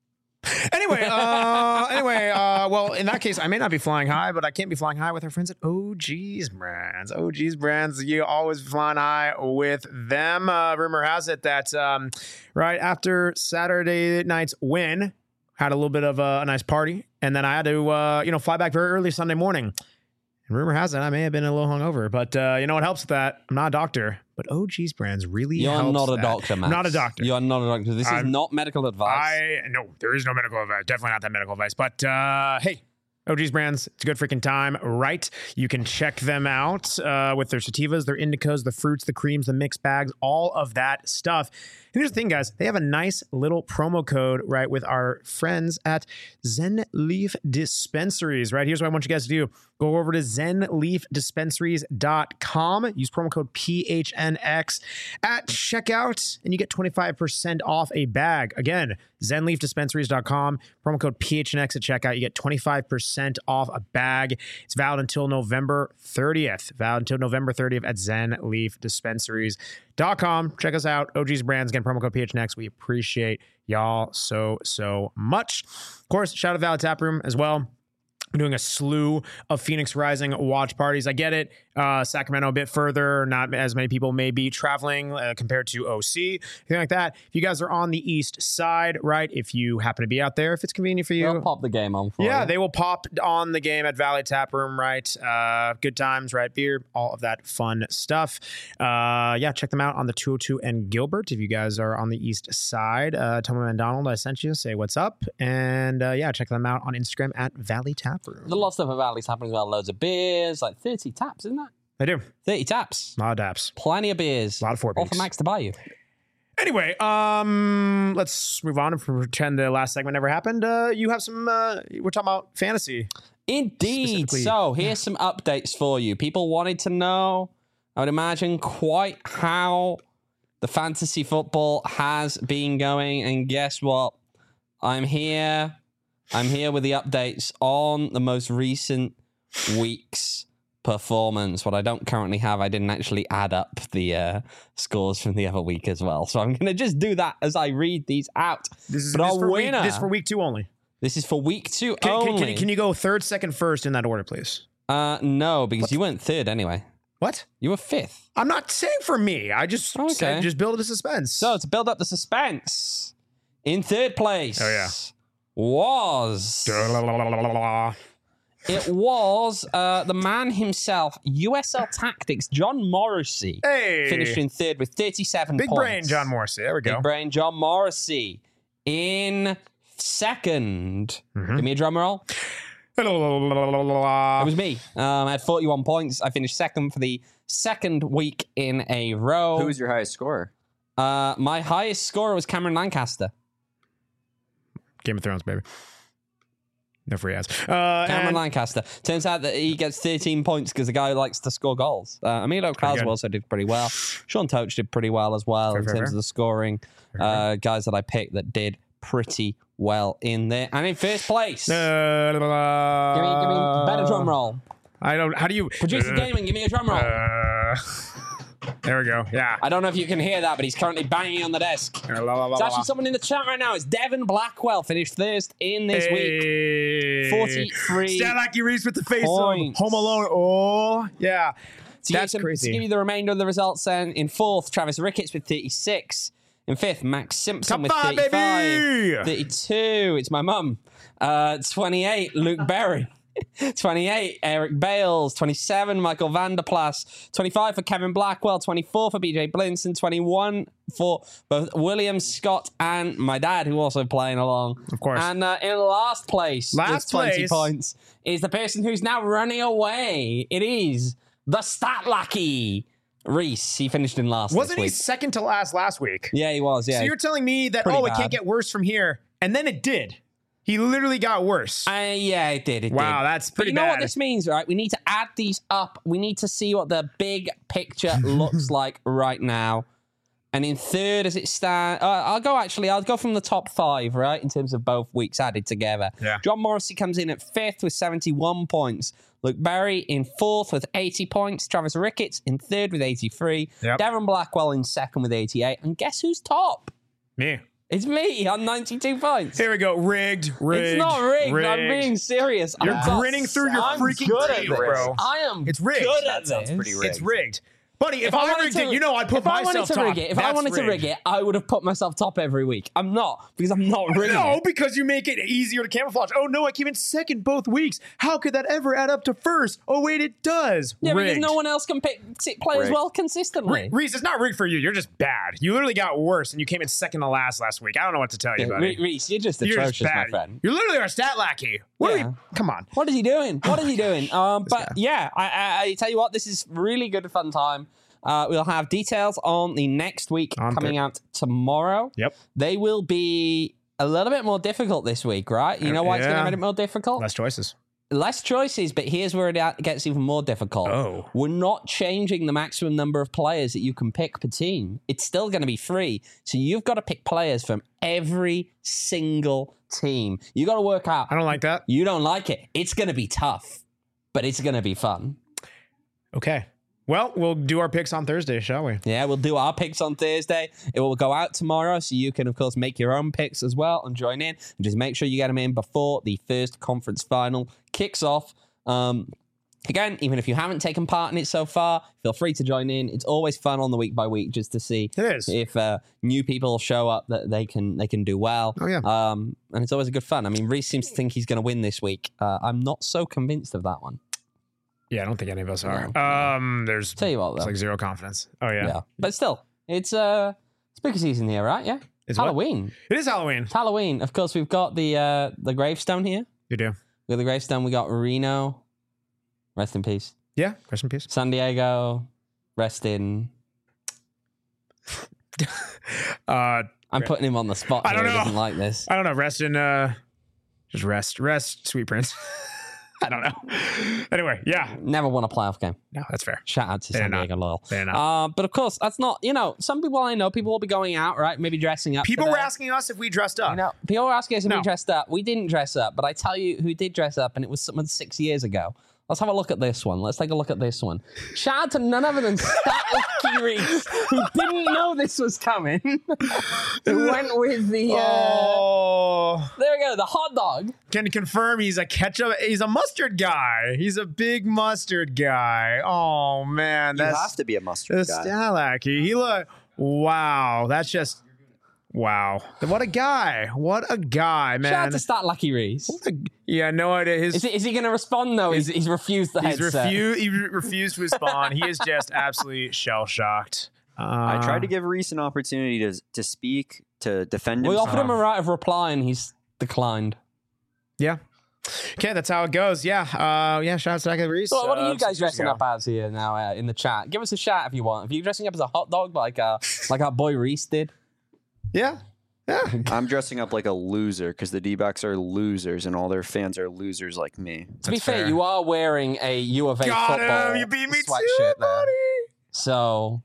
Speaker 7: Anyway, uh, anyway, uh, well, in that case, I may not be flying high, but I can't be flying high with our friends at O G's Brands. O G's Brands, you always flying high with them. Uh, rumor has it that um, right after Saturday night's win, had a little bit of a, a nice party, and then I had to, uh, you know, fly back very early Sunday morning. And rumor has it I may have been a little hungover, but uh, you know what helps with that? I'm not a doctor, but O G's Brands really
Speaker 2: You're
Speaker 7: helps
Speaker 2: not a
Speaker 7: that.
Speaker 2: doctor, man.
Speaker 7: Not a doctor.
Speaker 2: You're not a doctor. This
Speaker 7: I'm-
Speaker 2: is not medical advice.
Speaker 7: I no, there is no medical advice. Definitely not that medical advice. But uh, hey, O G's Brands, it's a good freaking time, right? You can check them out uh, with their sativas, their indicas, the fruits, the creams, the mixed bags, all of that stuff. And here's the thing, guys. They have a nice little promo code, right, with our friends at Zen Leaf Dispensaries, right? Here's what I want you guys to do. Go over to zen leaf dispensaries dot com. Use promo code P H N X at checkout, and you get twenty-five percent off a bag. Again, zen leaf dispensaries dot com. Promo code P H N X at checkout. You get twenty-five percent off a bag. It's valid until November thirtieth. Valid until November thirtieth at zen leaf dispensaries dot com. Check us out. O G's Brands. Again, promo code P H N X. We appreciate y'all so, so much. Of course, shout out to Valley Tap Room as well. I'm doing a slew of Phoenix Rising watch parties. I get it. Uh, Sacramento a bit further. Not as many people may be traveling uh, compared to O C. Anything like that. If you guys are on the east side, right? If you happen to be out there, if it's convenient for you.
Speaker 2: They'll pop the game on for
Speaker 7: Yeah,
Speaker 2: you.
Speaker 7: they will pop on the game at Valley Tap Room, right? Uh, good times, right? Beer, all of that fun stuff. Uh, yeah, check them out on the two oh two and Gilbert. If you guys are on the east side, uh, tell me, Donald, I sent you. Say what's up. And uh, yeah, check them out on Instagram at Valley Tap Room.
Speaker 2: There's a lot of stuff at Valley's happening as well. Loads of beers, like thirty taps, isn't that?
Speaker 7: They do.
Speaker 2: thirty taps.
Speaker 7: A lot of daps.
Speaker 2: Plenty of beers.
Speaker 7: A lot of four
Speaker 2: All for
Speaker 7: beaks.
Speaker 2: Max to buy you.
Speaker 7: Anyway, um, let's move on and pretend the last segment never happened. Uh, you have some, uh, we're talking about fantasy.
Speaker 2: Indeed.
Speaker 7: Specifically-
Speaker 2: So here's some updates for you. People wanted to know, I would imagine, quite how the fantasy football has been going. And guess what? I'm here. I'm here with the updates on the most recent week's performance. What I don't currently have, I didn't actually add up the uh, scores from the other week as well. So I'm going to just do that as I read these out.
Speaker 7: This is,
Speaker 2: But
Speaker 7: this
Speaker 2: our
Speaker 7: for week,
Speaker 2: winner-
Speaker 7: this for week two only.
Speaker 2: This is for week two
Speaker 7: Can, can,
Speaker 2: only.
Speaker 7: can, can you go third, second, first in that order, please?
Speaker 2: Uh, no, because you weren't third anyway.
Speaker 7: What?
Speaker 2: You were fifth.
Speaker 7: I'm not saying for me. I just
Speaker 2: Okay.
Speaker 7: said just build the suspense.
Speaker 2: So to build up the suspense, in third place
Speaker 7: Oh, yeah.
Speaker 2: was It was uh, the man himself, U S L Tactics, John Morrissey.
Speaker 7: Hey.
Speaker 2: Finished in third with thirty-seven
Speaker 7: Big
Speaker 2: points.
Speaker 7: brain, John Morrissey. There we go.
Speaker 2: Big brain, John Morrissey. In second.
Speaker 7: Mm-hmm.
Speaker 2: Give me a drum roll. It was me. Um, I had forty-one points. I finished second for the second week in a row.
Speaker 3: Who was your highest scorer?
Speaker 2: Uh, my highest scorer was Cameron Lancaster.
Speaker 7: Game of Thrones, baby. No free ads. Uh,
Speaker 2: Cameron
Speaker 7: and-
Speaker 2: Lancaster. Turns out that he gets thirteen points because the guy likes to score goals. Uh, Emilio Crowell also did pretty well. Sean Toach did pretty well as well
Speaker 7: Fair,
Speaker 2: in
Speaker 7: fair,
Speaker 2: terms
Speaker 7: fair.
Speaker 2: of the scoring.
Speaker 7: Fair,
Speaker 2: Uh, guys that I picked that did pretty well in there. And in first place,
Speaker 7: Uh,
Speaker 2: give me, give me better drum roll.
Speaker 7: I don't. How do you?
Speaker 2: Producer
Speaker 7: uh,
Speaker 2: Gaming, give me a drum roll.
Speaker 7: Uh, there we go. Yeah.
Speaker 2: I don't know if you can hear that, but he's currently banging on the desk.
Speaker 7: La, la, la,
Speaker 2: There's
Speaker 7: la,
Speaker 2: actually
Speaker 7: la.
Speaker 2: someone in the chat right now. It's Devin Blackwell, finished first in this week.
Speaker 7: Hey.
Speaker 2: forty-three
Speaker 7: Stand like you Reese with the face
Speaker 2: points.
Speaker 7: of Home Alone. Oh, yeah.
Speaker 2: To
Speaker 7: That's
Speaker 2: give, some-
Speaker 7: crazy.
Speaker 2: To give you the remainder of the results then, in fourth, Travis Ricketts with thirty-six. In fifth, Max Simpson
Speaker 7: Top
Speaker 2: with
Speaker 7: five,
Speaker 2: thirty-five.
Speaker 7: baby!
Speaker 2: thirty-two, it's my mum. Uh, twenty-eight, Luke Berry. twenty-eight, Eric Bales. twenty-seven, Michael Vanderplas. twenty-five for Kevin Blackwell. twenty-four for B J Blinson. twenty-one for both William Scott and my dad, who also playing along.
Speaker 7: Of course.
Speaker 2: And uh, in last place,
Speaker 7: Last
Speaker 2: with twenty
Speaker 7: place.
Speaker 2: points, is the person who's now running away. It is the Stat Lucky Reese. He finished in last.
Speaker 7: Wasn't
Speaker 2: this
Speaker 7: he
Speaker 2: week.
Speaker 7: second to last last week?
Speaker 2: Yeah, he was. Yeah.
Speaker 7: So you're telling me that,
Speaker 2: Pretty
Speaker 7: oh, it
Speaker 2: bad.
Speaker 7: can't get worse from here. And then it did. He literally got worse.
Speaker 2: Uh, yeah, it did. It
Speaker 7: Wow,
Speaker 2: did.
Speaker 7: that's
Speaker 2: But
Speaker 7: pretty
Speaker 2: you know what
Speaker 7: bad.
Speaker 2: this means, right? We need to add these up. We need to see what the big picture looks like right now. And in third, as it stands, uh, I'll go actually, I'll go from the top five, right? In terms of both weeks added together.
Speaker 7: Yeah.
Speaker 2: John Morrissey comes in at fifth with seventy-one points. Luke Berry in fourth with eighty points. Travis Ricketts in third with eighty-three.
Speaker 7: Yep.
Speaker 2: Darren Blackwell in second with eighty-eight. And guess who's top?
Speaker 7: Me.
Speaker 2: It's me on ninety-two points.
Speaker 7: Here we go. Rigged. Rigged.
Speaker 2: It's not rigged. I'm
Speaker 7: rigged.
Speaker 2: being serious.
Speaker 7: You're
Speaker 2: I'm
Speaker 7: grinning through your
Speaker 2: I'm
Speaker 7: freaking
Speaker 2: good at
Speaker 7: teeth,
Speaker 2: this.
Speaker 7: bro.
Speaker 2: I am.
Speaker 7: It's rigged.
Speaker 2: Good
Speaker 3: That
Speaker 2: at
Speaker 3: sounds
Speaker 2: this.
Speaker 3: pretty rigged.
Speaker 7: It's rigged. Buddy, if, I,
Speaker 2: wanted
Speaker 7: rigged
Speaker 2: to-
Speaker 7: it, you know I'd put
Speaker 2: if I wanted
Speaker 7: myself
Speaker 2: to
Speaker 7: top.
Speaker 2: rig it, if I
Speaker 7: That's
Speaker 2: wanted to rig
Speaker 7: rigged.
Speaker 2: it, I would have put myself top every week. I'm not because I'm not rigging
Speaker 7: No,
Speaker 2: it.
Speaker 7: because you make it easier to camouflage. Oh no, I came in second both weeks. How could that ever add up to first? Oh wait, it does.
Speaker 2: Yeah, because
Speaker 7: rigged.
Speaker 2: no one else can pick sit- play as
Speaker 3: Rigged.
Speaker 2: well consistently.
Speaker 7: Re- Reese, it's not rigged for you. You're just bad. You literally got worse, and you came in second to last last week. I don't know what to tell you,
Speaker 2: Yeah,
Speaker 7: buddy.
Speaker 2: Re- Reese, you're just
Speaker 7: You're
Speaker 2: atrocious,
Speaker 7: just
Speaker 2: my
Speaker 7: bad.
Speaker 2: friend.
Speaker 7: You're literally our stat lackey. What
Speaker 2: Yeah.
Speaker 7: are we? Come on.
Speaker 2: What is he doing? What is he doing? Um, but
Speaker 7: guy.
Speaker 2: yeah, I, I, I tell you what, this is really good fun time. Uh, we'll have details on the next week
Speaker 7: On
Speaker 2: coming
Speaker 7: Thur-
Speaker 2: out tomorrow.
Speaker 7: Yep.
Speaker 2: They will be a little bit more difficult this week, right? You know why it's going
Speaker 7: Yeah.
Speaker 2: to make it more difficult?
Speaker 7: Less choices.
Speaker 2: Less choices, but here's where it gets even more difficult.
Speaker 7: Oh.
Speaker 2: We're not changing the maximum number of players that you can pick per team. It's still going to be free. So you've got to pick players from every single team. You got to work out.
Speaker 7: I don't like that.
Speaker 2: You don't like it. It's going to be tough, but it's going to be fun.
Speaker 7: Okay. Well, we'll do our picks on Thursday, shall we?
Speaker 2: Yeah, we'll do our picks on Thursday. It will go out tomorrow, so you can, of course, make your own picks as well and join in. And just make sure you get them in before the first conference final kicks off. Um, again, even if you haven't taken part in it so far, feel free to join in. It's always fun on the week by week just to see
Speaker 7: It is.
Speaker 2: if uh, new people show up that they can they can do well.
Speaker 7: Oh, yeah.
Speaker 2: Um, and it's always a good fun. I mean, Reese seems to think he's going to win this week. Uh, I'm not so convinced of that one.
Speaker 7: Yeah, I don't think any of us are.
Speaker 2: No.
Speaker 7: Um, there's
Speaker 2: Tell you what,
Speaker 7: it's
Speaker 2: though.
Speaker 7: like zero confidence. Oh yeah.
Speaker 2: Yeah. But still, it's uh spooky season here, right? Yeah.
Speaker 7: It's what?
Speaker 2: Halloween.
Speaker 7: It is Halloween.
Speaker 2: It's Halloween. Of course, we've got the uh the gravestone here.
Speaker 7: You do.
Speaker 2: With the gravestone, we got Reno. Rest in peace.
Speaker 7: Yeah. Rest in peace.
Speaker 2: San Diego. Rest in.
Speaker 7: Uh,
Speaker 2: I'm putting him on the spot.
Speaker 7: I don't
Speaker 2: here. He
Speaker 7: know.
Speaker 2: doesn't like this.
Speaker 7: I don't know. Rest in. Uh, just rest. Rest, sweet prince. I don't know. Anyway, yeah.
Speaker 2: Never won a playoff game.
Speaker 7: No, that's fair.
Speaker 2: Shout out to
Speaker 7: They're
Speaker 2: San
Speaker 7: not.
Speaker 2: Diego Loyal.
Speaker 7: They're not.
Speaker 2: Uh, but of course, that's not, you know, some people I know, people will be going out, right? Maybe dressing up.
Speaker 7: People
Speaker 2: for
Speaker 7: were
Speaker 2: their-
Speaker 7: asking us if we dressed up.
Speaker 2: You know, people were asking us if
Speaker 7: No.
Speaker 2: we dressed up. We didn't dress up, but I tell you who did dress up, and it was someone six years ago. Let's have a look at this one. Let's take a look at this one. Shout out to none other than Stat Lucky Reese, who didn't know this was coming. Who went with the, uh,
Speaker 7: Oh,
Speaker 2: there we go, the hot dog.
Speaker 7: can confirm he's a ketchup. He's a mustard guy. He's a big mustard guy. Oh man,
Speaker 3: You
Speaker 7: that's
Speaker 3: have to be a mustard
Speaker 7: that's
Speaker 3: guy.
Speaker 7: Stalacky. He look. Wow, that's just. Wow. What a guy. What a guy, man.
Speaker 2: Shout out to Stat Lucky Reese.
Speaker 7: Yeah, no idea. His,
Speaker 2: is, he, is he going to respond, though? He's, he's refused the
Speaker 7: he's
Speaker 2: headset.
Speaker 7: Refu- he re- refused to respond. He is just absolutely shell-shocked. Uh,
Speaker 3: I tried to give Reese an opportunity to to speak, to defend
Speaker 2: We
Speaker 3: himself.
Speaker 2: offered him a right of reply, and he's declined.
Speaker 7: Yeah. Okay, that's how it goes. Yeah. Uh, yeah, shout out to Lucky Reese.
Speaker 2: So what are
Speaker 7: uh,
Speaker 2: you guys
Speaker 7: six years
Speaker 2: dressing
Speaker 7: ago.
Speaker 2: up as here now uh, in the chat? Give us a shout if you want. Are you dressing up as a hot dog like uh, like our boy Reese did?
Speaker 7: Yeah. Yeah.
Speaker 3: I'm dressing up like a loser because the D-backs are losers and all their fans are losers like me.
Speaker 2: To be fair,
Speaker 7: fair.
Speaker 2: you are wearing a U of A
Speaker 7: Got
Speaker 2: football
Speaker 7: him. You beat me
Speaker 2: sweatshirt
Speaker 7: too,
Speaker 2: there.
Speaker 7: buddy.
Speaker 2: So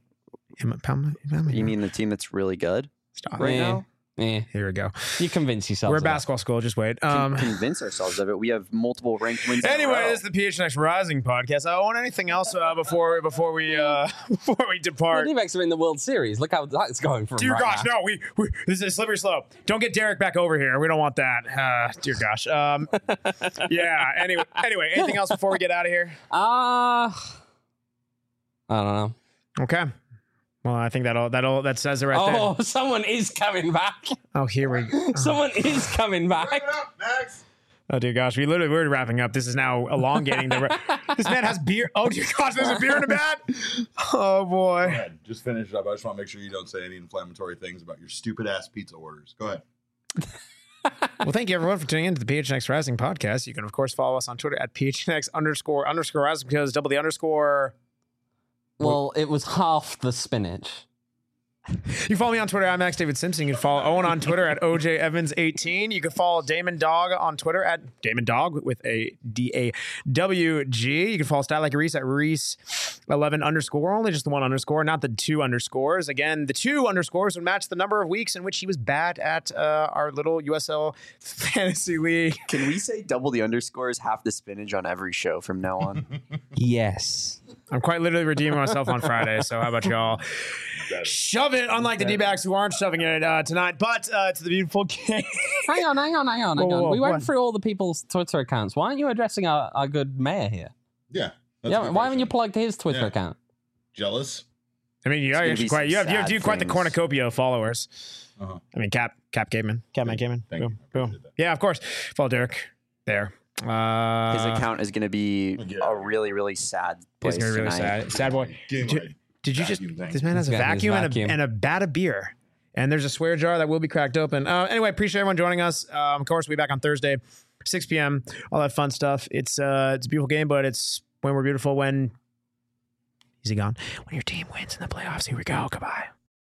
Speaker 3: You mean the team that's really good
Speaker 7: Stop.
Speaker 3: right
Speaker 2: yeah,
Speaker 3: now?
Speaker 2: yeah.
Speaker 7: Here we go.
Speaker 2: You convince yourself.
Speaker 7: We're a
Speaker 2: of that.
Speaker 7: basketball school. Just wait.
Speaker 3: Con-
Speaker 7: Um,
Speaker 3: convince ourselves of it. We have multiple ranked wins. in a
Speaker 7: Anyway,
Speaker 3: row.
Speaker 7: this is the P H N X Rising podcast. I want anything else uh, before before we uh, before we
Speaker 2: The
Speaker 7: depart?
Speaker 2: D-backs are in the World Series. Look how that's going for them
Speaker 7: Dear
Speaker 2: right
Speaker 7: gosh,
Speaker 2: now.
Speaker 7: no, we, we this is a slippery slope. Don't get Derek back over here. We don't want that. Uh, dear gosh. Um, yeah. Anyway, anyway, anything else before we get out of here?
Speaker 2: Uh, I don't know.
Speaker 7: Okay. Well, I think that'll that'll that says it right
Speaker 2: Oh,
Speaker 7: there.
Speaker 2: someone is coming back.
Speaker 7: Oh, here we go.
Speaker 2: Someone is coming back.
Speaker 6: Wrap it up, Max.
Speaker 7: Oh dear gosh, we literally we're wrapping up. This is now elongating the. Ra- this man has beer. Oh dear gosh, there's a beer in the bat. Oh
Speaker 6: Go
Speaker 7: boy.
Speaker 6: ahead. Just finish it up. I just want to make sure you don't say any inflammatory things about your stupid ass pizza orders. Go ahead.
Speaker 7: Well, thank you everyone for tuning in to the P H N X Rising podcast. You can of course follow us on Twitter at P H N X underscore underscore Rising because double the underscore.
Speaker 2: Well, it was half the spinach.
Speaker 7: You can follow me on Twitter at Max David Simpson. You can follow Owen on Twitter at O J Evans eighteen. You can follow Damon Dog on Twitter at Damon Dog with a D A W G. You can follow Stat Like Reese at Reese eleven underscore. Only just the one underscore, not the two underscores. Again, the two underscores would match the number of weeks in which he was bad at uh, our little U S L Fantasy League.
Speaker 3: Can we say double the underscores, half the spinach on every show from now on?
Speaker 2: Yes.
Speaker 7: I'm quite literally redeeming myself on Friday, so how about y'all shove it, unlike the D-backs who aren't shoving it uh, tonight, but uh, to the beautiful game.
Speaker 2: Hang on, hang on, hang on, hang
Speaker 7: Whoa,
Speaker 2: on.
Speaker 7: whoa,
Speaker 2: we went
Speaker 7: what?
Speaker 2: through all the people's Twitter accounts. Why aren't you addressing our, our good mayor here?
Speaker 6: Yeah. that's a
Speaker 2: Yeah,
Speaker 6: good
Speaker 2: why haven't you
Speaker 6: question.
Speaker 2: plugged his Twitter
Speaker 6: Yeah.
Speaker 2: account?
Speaker 6: Jealous?
Speaker 7: I mean, you are
Speaker 3: gonna
Speaker 7: actually
Speaker 3: be
Speaker 7: quite,
Speaker 3: some
Speaker 7: you have, you have,
Speaker 3: sad
Speaker 7: you have quite the
Speaker 3: things.
Speaker 7: cornucopia of followers.
Speaker 6: Uh-huh.
Speaker 7: I mean, Cap, Cap Caveman, Capman
Speaker 6: Thank you.
Speaker 7: Caveman.
Speaker 6: Thank
Speaker 7: Boom,
Speaker 6: you. I
Speaker 7: boom.
Speaker 6: appreciate that.
Speaker 7: Yeah, of course. Follow Derek there. Uh,
Speaker 3: His account is going to be
Speaker 6: Yeah.
Speaker 3: a really, really sad place
Speaker 7: It's gonna be really
Speaker 3: tonight.
Speaker 7: sad. Sad boy.
Speaker 6: Give
Speaker 7: Did,
Speaker 6: my
Speaker 7: did you just?
Speaker 6: vacuum thing.
Speaker 7: This man has a
Speaker 2: He's got his
Speaker 7: vacuum, and a,
Speaker 2: vacuum.
Speaker 7: and a bat of beer, and there's a swear jar that will be cracked open. Uh, anyway, appreciate everyone joining us. Um, of course, we'll be back on Thursday, six p.m. All that fun stuff. It's uh, it's a beautiful game, but it's when we're beautiful when. Is he gone? When your team wins in the playoffs. Here we go. Goodbye.